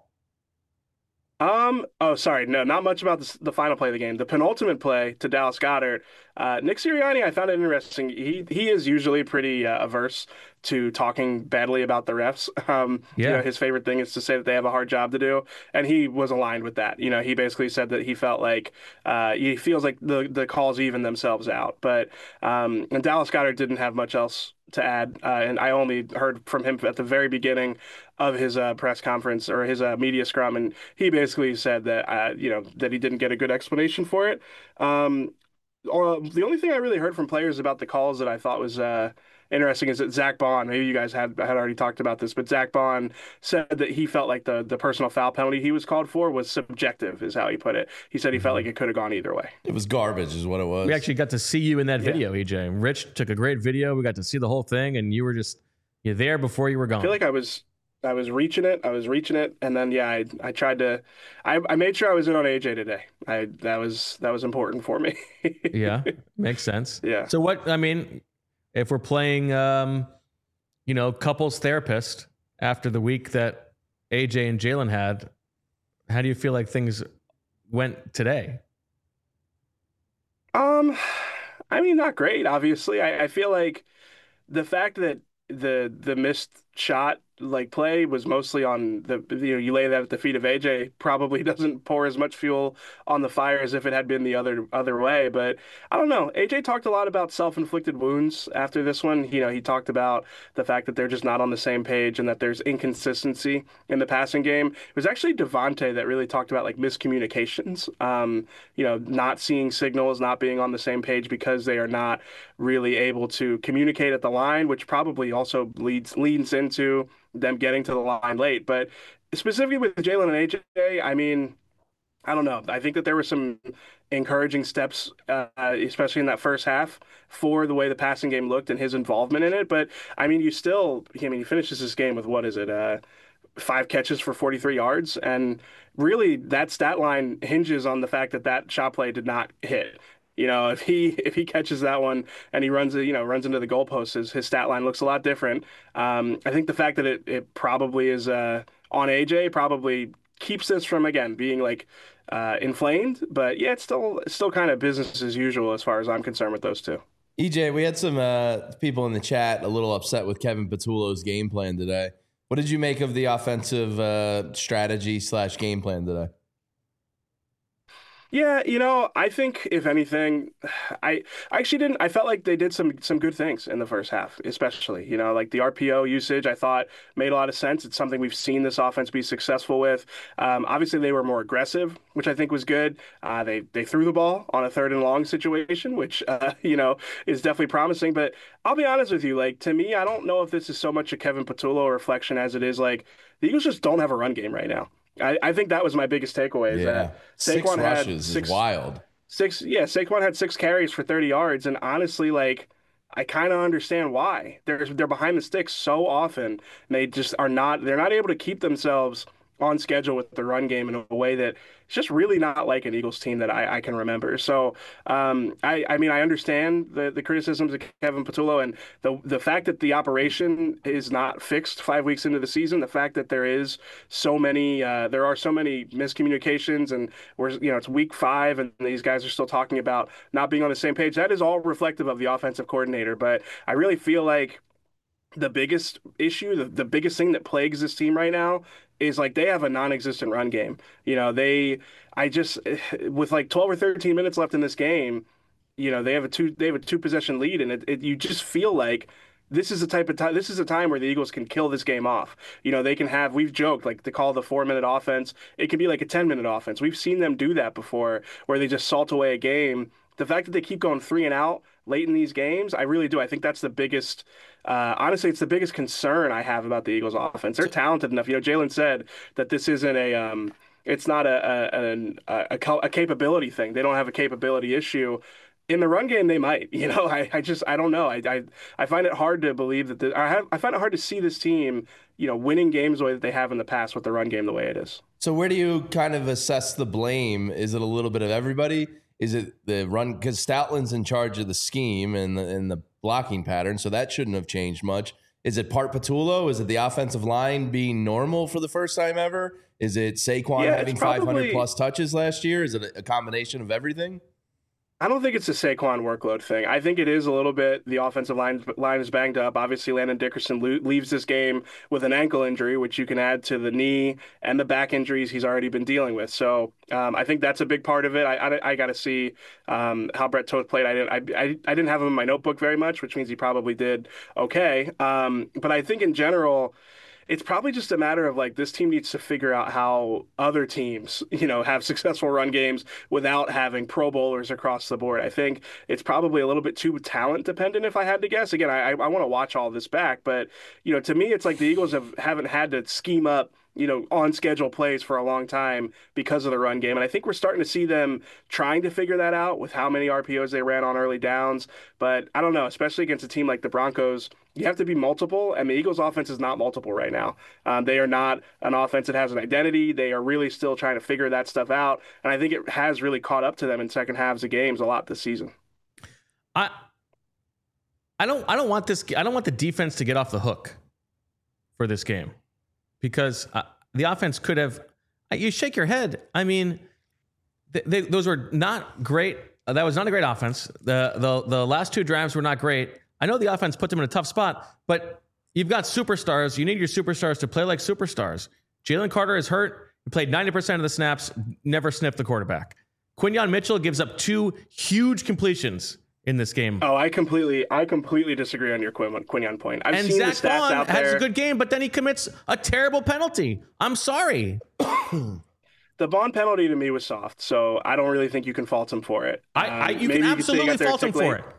Oh, sorry. No, not much about the final play of the game. The penultimate play to Dallas Goedert. Nick Sirianni, I found it interesting. He is usually pretty averse to talking badly about the refs. You know, his favorite thing is to say that they have a hard job to do, and he was aligned with that. You know, he basically said that he felt like he feels like the calls even themselves out. But and Dallas Goedert didn't have much else to add, and I only heard from him at the very beginning of his press conference or his media scrum, and he basically said that you know, that he didn't get a good explanation for it. The only thing I really heard from players about the calls that I thought was interesting is that Zach Bond, maybe you guys had already talked about this, but Zach Bond said that he felt like the personal foul penalty he was called for was subjective, is how he put it. He said he felt like it could have gone either way. It was garbage is what it was. We actually got to see you in that video, EJ. Rich took a great video. We got to see the whole thing, and you're there before you were gone. I feel like I was reaching it. And then, yeah, I tried to, I made sure I was in on AJ today. That was important for me. Yeah. Makes sense. Yeah. So if we're playing, couples therapist after the week that AJ and Jalen had, how do you feel like things went today? Not great, obviously. I feel like the fact that the missed shot play was mostly on you lay that at the feet of AJ probably doesn't pour as much fuel on the fire as if it had been the other way. But I don't know. AJ talked a lot about self-inflicted wounds after this one. He talked about the fact that they're just not on the same page and that there's inconsistency in the passing game. It was actually Devontae that really talked about miscommunications. Not seeing signals, not being on the same page because they are not really able to communicate at the line, which probably also leads into them getting to the line late. But specifically with Jalen and AJ, I don't know. I think that there were some encouraging steps, especially in that first half, for the way the passing game looked and his involvement in it. But he finishes this game with 5 catches for 43 yards. And really that stat line hinges on the fact that shot play did not hit. If he catches that one and he runs into the goalposts, his stat line looks a lot different. I think the fact that it probably is on AJ probably keeps this from again being inflamed. But yeah, it's still kind of business as usual as far as I'm concerned with those two. EJ, we had some people in the chat a little upset with Kevin Patullo's game plan today. What did you make of the offensive strategy / game plan today? Yeah, I think if anything, I actually didn't. I felt like they did some good things in the first half, especially. The RPO usage, I thought made a lot of sense. It's something we've seen this offense be successful with. Obviously, they were more aggressive, which I think was good. They threw the ball on a 3rd and long situation, which is definitely promising. But I'll be honest with you, to me, I don't know if this is so much a Kevin Patullo reflection as it is the Eagles just don't have a run game right now. I think that was my biggest takeaway. Is that Saquon 6 rushes is wild. Saquon had 6 carries for 30 yards, and honestly, I kind of understand why. They're behind the sticks so often, and they just are not. They're not able to keep themselves on schedule with the run game in a way that it's just really not like an Eagles team that I can remember. So I understand the criticisms of Kevin Patullo and the fact that the operation is not fixed 5 weeks into the season, the fact that there are so many miscommunications, and it's week 5 and these guys are still talking about not being on the same page. That is all reflective of the offensive coordinator. But I really feel like the biggest issue, the biggest thing that plagues this team right now is they have a non-existent run game. With 12 or 13 minutes left in this game, they have a 2 possession lead, and you just feel like this is a time where the Eagles can kill this game off. They can have, we've joked, they call the 4-minute offense. It can be a 10-minute offense. We've seen them do that before, where they just salt away a game. The fact that they keep going 3 and out late in these games, I really do. I think that's the biggest, honestly, it's the biggest concern I have about the Eagles offense. They're talented enough. Jalen said that this isn't it's not a capability thing. They don't have a capability issue. In the run game, they might. I don't know. I find it hard to believe that I find it hard to see this team, winning games the way that they have in the past with the run game the way it is. So where do you kind of assess the blame? Is it a little bit of everybody? Is it the run? Because Stoutland's in charge of the scheme and the blocking pattern, so that shouldn't have changed much. Is it part Patullo? Is it the offensive line being normal for the first time ever? Is it Saquon having 500 plus touches last year? Is it a combination of everything? I don't think it's a Saquon workload thing. I think it is a little bit the offensive line is banged up. Obviously, Landon Dickerson leaves this game with an ankle injury, which you can add to the knee and the back injuries he's already been dealing with. So I think that's a big part of it. I got to see how Brett Toth played. I didn't have him in my notebook very much, which means he probably did okay. But I think in general, it's probably just a matter of like this team needs to figure out how other teams, have successful run games without having Pro Bowlers across the board. I think it's probably a little bit too talent dependent, if I had to guess. Again, I want to watch all this back, but to me, it's like the Eagles haven't had to scheme up on schedule plays for a long time because of the run game. And I think we're starting to see them trying to figure that out with how many RPOs they ran on early downs. But I don't know, especially against a team like the Broncos, you have to be multiple, and the Eagles offense is not multiple right now. They are not an offense that has an identity. They are really still trying to figure that stuff out. And I think it has really caught up to them in second halves of games a lot this season. I don't want the defense to get off the hook for this game. Because the offense could have, you shake your head. I mean, those were not great. That was not a great offense. The last two drives were not great. I know the offense put them in a tough spot, but you've got superstars. You need your superstars to play like superstars. Jalen Carter is hurt. He played 90% of the snaps, never sniffed the quarterback. Quinyon Mitchell gives up 2 huge completions in this game. Oh, I completely disagree on your Quinyon point. I've seen Zach the stats Bond out there. has a good game, but then he commits a terrible penalty. I'm sorry. The Bond penalty to me was soft, so I don't really think you can fault him for it. You can absolutely fault him for it.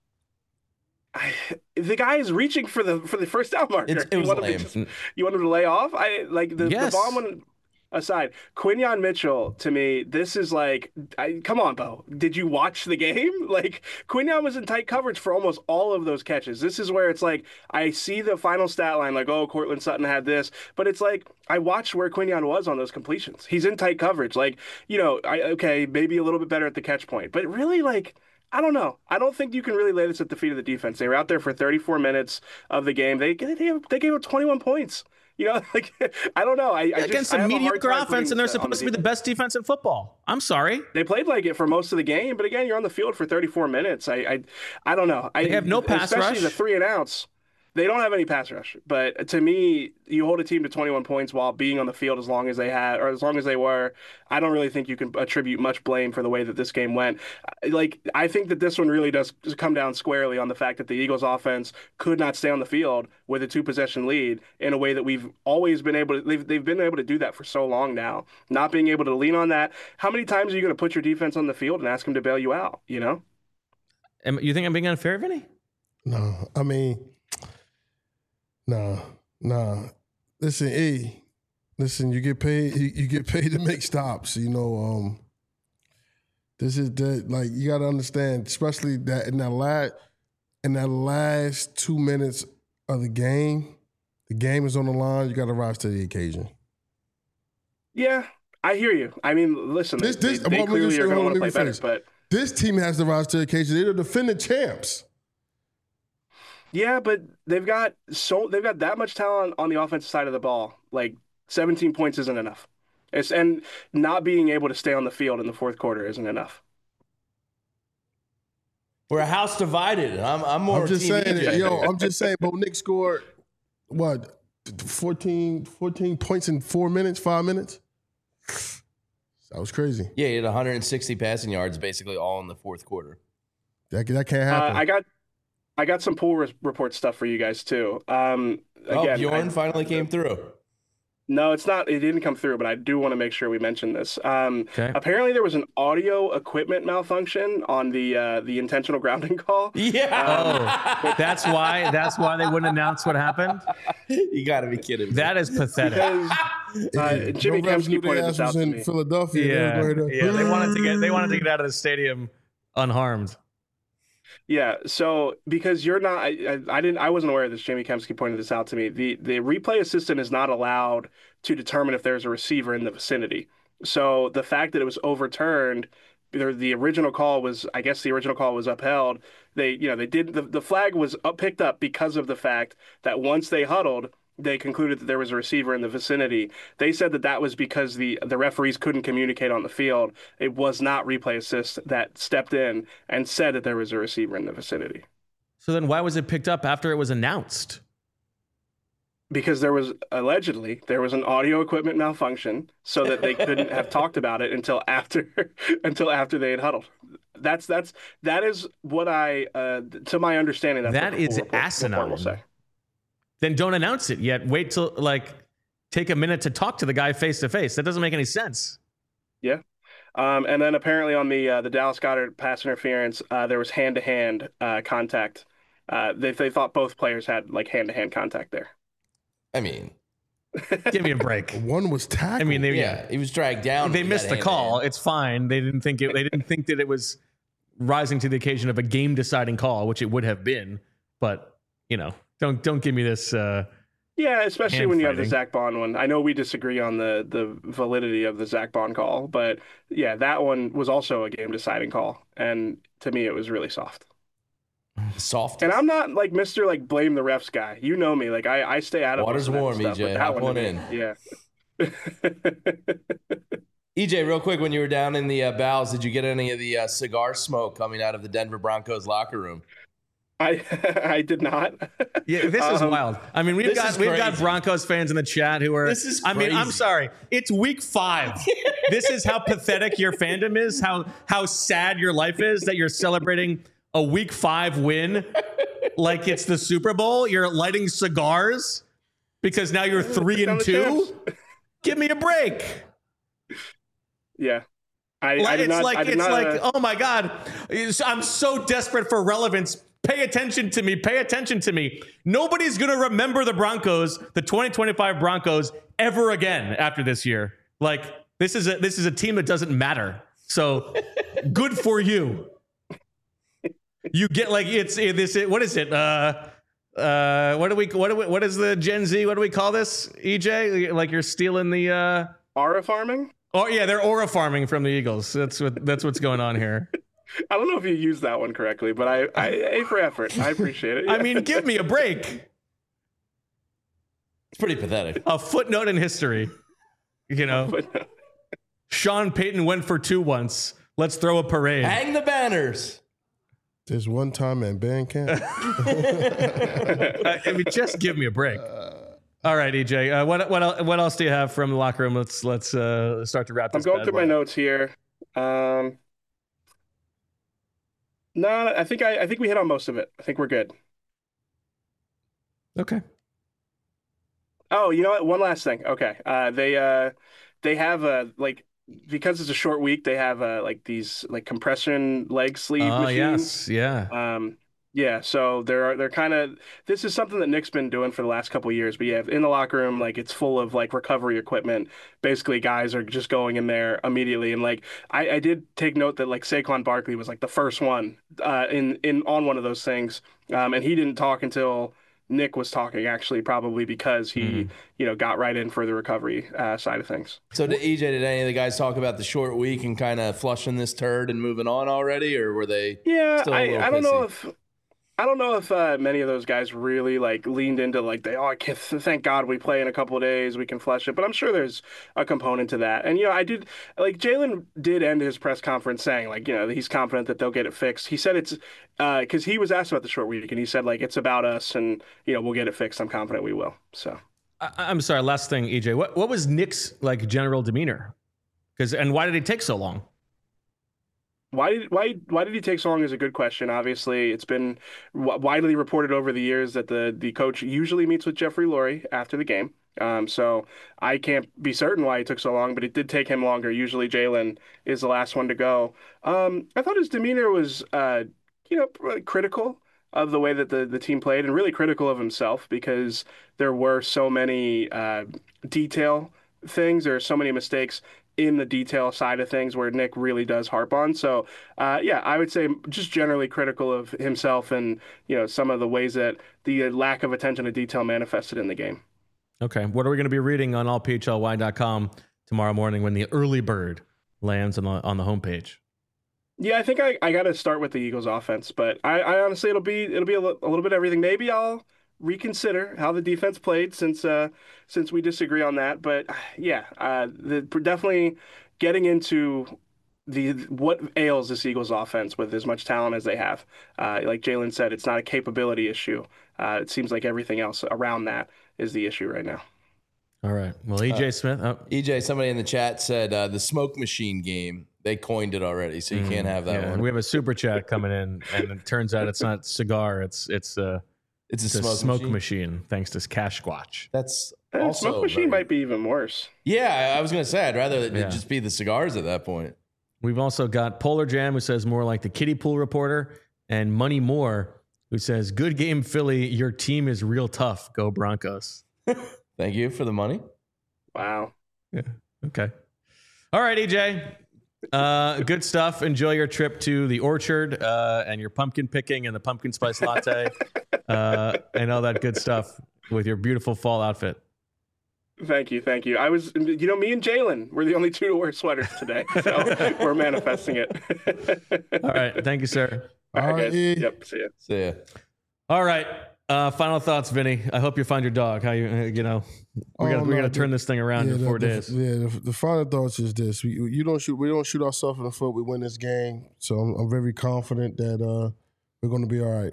The guy is reaching for the first down marker. It was lame. You want him to lay off? The Bond one aside, Quinyon Mitchell, to me, this is like, come on, Bo. Did you watch the game? Like, Quinyon was in tight coverage for almost all of those catches. This is where it's like, I see the final stat line, like, oh, Cortland Sutton had this, but it's like, I watched where Quinyon was on those completions. He's in tight coverage. Like, okay, maybe a little bit better at the catch point, but really, like, I don't know. I don't think you can really lay this at the feet of the defense. They were out there for 34 minutes of the game. They gave up 21 points. I don't know. Against a mediocre offense, and they're supposed to be the best defense in football. I'm sorry. They played like it for most of the game, but again, you're on the field for 34 minutes. I don't know. They have no pass rush. Especially the 3 and outs. They don't have any pass rush. But to me, you hold a team to 21 points while being on the field as long as they had, or as long as they were. I don't really think you can attribute much blame for the way that this game went. I think that this one really does come down squarely on the fact that the Eagles offense could not stay on the field with a 2-possession lead in a way that we've always been able to. They've been able to do that for so long now. Not being able to lean on that. How many times are you going to put your defense on the field and ask them to bail you out? You think I'm being unfair, Vinny? No, I mean. Nah. Listen, you get paid. You get paid to make stops. This is that. Like, you got to understand, especially that in that last 2 minutes of the game is on the line. You got to rise to the occasion. Yeah, I hear you. I mean, listen, they clearly are going to want to play better, but this team has to rise to the occasion. They're the defending champs. Yeah, but they've got that much talent on the offensive side of the ball. Like 17 points isn't enough. And not being able to stay on the field in the fourth quarter isn't enough. We're a house divided. I'm just saying, Bo Nick scored what 14 points in 5 minutes. That was crazy. Yeah, he had 160 passing yards basically all in the fourth quarter. That can't happen. I got some pool report stuff for you guys too. Again, Bjorn finally came through. No, it's not. It didn't come through, but I do want to make sure we mention this. Okay. Apparently, there was an audio equipment malfunction on the intentional grounding call. Yeah. That's why they wouldn't announce what happened. You got to be kidding me. That is pathetic. Jimmy Kempski pointed this out to me. Philadelphia. Yeah. They wanted to get out of the stadium unharmed. Yeah, so because you're not, I wasn't aware of this. Jamie Kempski pointed this out to me. The replay assistant is not allowed to determine if there's a receiver in the vicinity. So the fact that it was overturned the original call was, I guess the original call was upheld. The flag was picked up because of the fact that once they huddled, they concluded that there was a receiver in the vicinity. They said that was because the referees couldn't communicate on the field. It was not replay assist that stepped in and said that there was a receiver in the vicinity. So then why was it picked up after it was announced? Because there was an audio equipment malfunction, so that they couldn't have talked about it until after they had huddled. That is what to my understanding, that is asinine. Will say. Then don't announce it yet. Wait till take a minute to talk to the guy face to face. That doesn't make any sense. Yeah. And then apparently on the Dallas Goedert pass interference, there was hand-to-hand contact. They thought both players had hand-to-hand contact there. I mean, give me a break. One was tackled. I mean, he was dragged down. They missed the call. It's fine. They didn't think that it was rising to the occasion of a game-deciding call, which it would have been. But don't give me this. Yeah, especially when you have the Zach Bond one. I know we disagree on the validity of the Zach Bond call, but yeah, that one was also a game-deciding call, and to me, it was really soft. Soft. And I'm not Mr. blame the refs guy. You know me. I stay out of water's warm, stuff, EJ. Hop one in. Yeah. EJ, real quick, when you were down in the bowels, did you get any of the cigar smoke coming out of the Denver Broncos locker room? I did not. Yeah, this is wild. I mean, we've got Broncos fans in the chat who are. This is crazy. I mean, I'm sorry. It's week 5. This is how pathetic your fandom is. How sad your life is that you're celebrating a week 5 win like it's the Super Bowl. You're lighting cigars because now you're 3-2. Give me a break. Yeah. Oh my God. I'm so desperate for relevance. Pay attention to me. Pay attention to me. Nobody's going to remember the Broncos, the 2025 Broncos, ever again after this year. This is a team that doesn't matter. So good for you. You get what is it? What is the Gen Z? What do we call this, EJ? You're stealing the aura farming? Oh yeah, they're aura farming from the Eagles. That's what's going on here. I don't know if you used that one correctly, but I A for effort. I appreciate it. Yeah. I mean, give me a break. It's pretty pathetic. A footnote in history. Sean Payton went for 2 once. Let's throw a parade. Hang the banners. There's one time at band camp. I mean, just give me a break. All right, EJ. What else do you have from the locker room? Let's start to wrap this. I'm going through my notes here. No, I think we hit on most of it. I think we're good. Okay. Oh, you know what? One last thing. Okay. They have because it's a short week, they have these compression leg sleeve machines. Yes, yeah. Yeah, so they're kind of, this is something that Nick's been doing for the last couple of years, but yeah, in the locker room, it's full of recovery equipment. Basically, guys are just going in there immediately, and I did take note that Saquon Barkley was the first one on one of those things, and he didn't talk until Nick was talking, actually, probably because he got right in for the recovery side of things. So EJ, did any of the guys talk about the short week and kind of flushing this turd and moving on already, or were they? Yeah, I don't know if. I don't know if many of those guys really leaned into thank God we play in a couple of days, we can flush it. But I'm sure there's a component to that. And I did Jalen did end his press conference saying he's confident that they'll get it fixed. He said it's because he was asked about the short week and he said it's about us and we'll get it fixed. I'm confident we will. So I'm sorry. Last thing, EJ, what was Nick's general demeanor? And why did it take so long? Why did he take so long is a good question. Obviously, it's been widely reported over the years that the coach usually meets with Jeffrey Lurie after the game. So I can't be certain why it took so long, but it did take him longer. Usually Jalen is the last one to go. I thought his demeanor was, critical of the way that the team played and really critical of himself because there were so many detail things. There are so many mistakes in the detail side of things where Nick really does harp on. So, I would say just generally critical of himself and, some of the ways that the lack of attention to detail manifested in the game. Okay. What are we going to be reading on allphly.com tomorrow morning when the early bird lands on the homepage? Yeah, I think I got to start with the Eagles offense, but I honestly it'll be a little bit of everything. Maybe I'll reconsider how the defense played since we disagree on that. But yeah, definitely getting into what ails this Eagles offense with as much talent as they have. Like Jalen said, it's not a capability issue. It seems like everything else around that is the issue right now. All right. Well, EJ Smith. EJ, somebody in the chat said the smoke machine game. They coined it already, so you can't have that one. And we have a super chat coming in, and it turns out it's not cigar. It's a smoke machine. Thanks to Cash Squatch. That's also smoke machine might be even worse. Yeah, I was gonna say I'd rather it just be the cigars at that point. We've also got Polar Jam, who says more like the kiddie pool reporter, and Money Moore, who says, "Good game, Philly. Your team is real tough. Go Broncos." Thank you for the money. Wow. Yeah. Okay. All right, EJ. Good stuff. Enjoy your trip to the orchard and your pumpkin picking and the pumpkin spice latte and all that good stuff with your beautiful fall outfit. Thank you. I was, me and Jalen were the only two to wear sweaters today, so we're manifesting it. All right. Thank you, sir. All right, guys. Yep. See ya. All right. Final thoughts, Vinny. I hope you find your dog. How we gotta turn this thing around in 4 days. The final thoughts is this: we don't shoot ourselves in the foot. We win this game, so I'm very confident that we're going to be all right.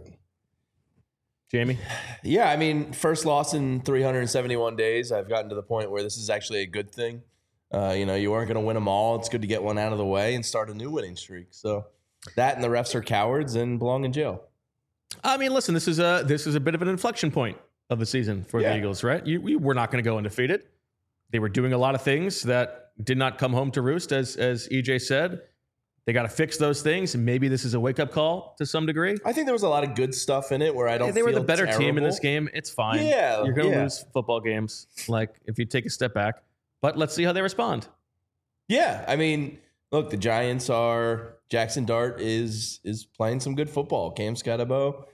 Jamie? Yeah, I mean, first loss in 371 days. I've gotten to the point where this is actually a good thing. You weren't going to win them all. It's good to get one out of the way and start a new winning streak. So that and the refs are cowards and belong in jail. I mean, listen, this is a bit of an inflection point of the season for the Eagles, right? We were not going to go undefeated. They were doing a lot of things that did not come home to roost, as EJ said. They got to fix those things. And maybe this is a wake-up call to some degree. I think there was a lot of good stuff in it where I don't. They were the better terrible. team in this game. It's fine. Yeah, you're going to lose football games, like if you take a step back. But let's see how they respond. Yeah, I mean, look, the Giants are. Jackson Dart is playing some good football. Cam Scatterbo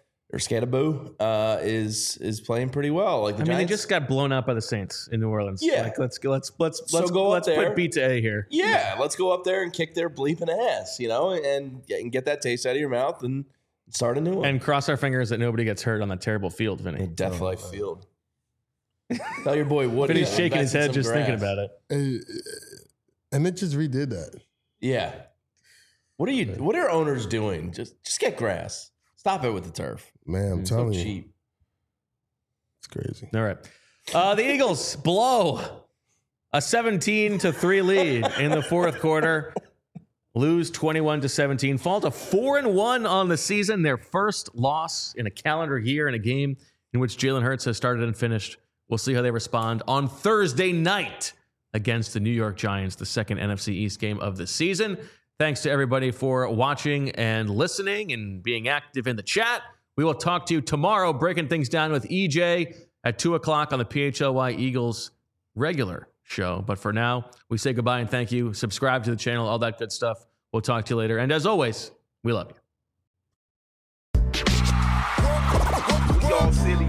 is playing pretty well. Like Giants, they just got blown out by the Saints in New Orleans. Yeah, like, let's put B to A here. Yeah, let's go up there and kick their bleeping ass, and get that taste out of your mouth and start a new one. And cross our fingers that nobody gets hurt on that terrible field, Vinny. Death Life Field. Tell your boy Woody. Vinny's shaking his head just thinking about it. And it just redid that. Yeah. What are owners doing? Just get grass. Stop it with the turf. Man, I'm telling you. Cheap. It's crazy. All right. The Eagles blow a 17-3 lead in the fourth quarter. Lose 21-17. Fall to 4-1 on the season. Their first loss in a calendar year in a game in which Jalen Hurts has started and finished. We'll see how they respond on Thursday night against the New York Giants, the second NFC East game of the season. Thanks to everybody for watching and listening and being active in the chat. We will talk to you tomorrow, breaking things down with EJ at 2 o'clock on the PHLY Eagles regular show. But for now, we say goodbye and thank you. Subscribe to the channel, all that good stuff. We'll talk to you later. And as always, we love you.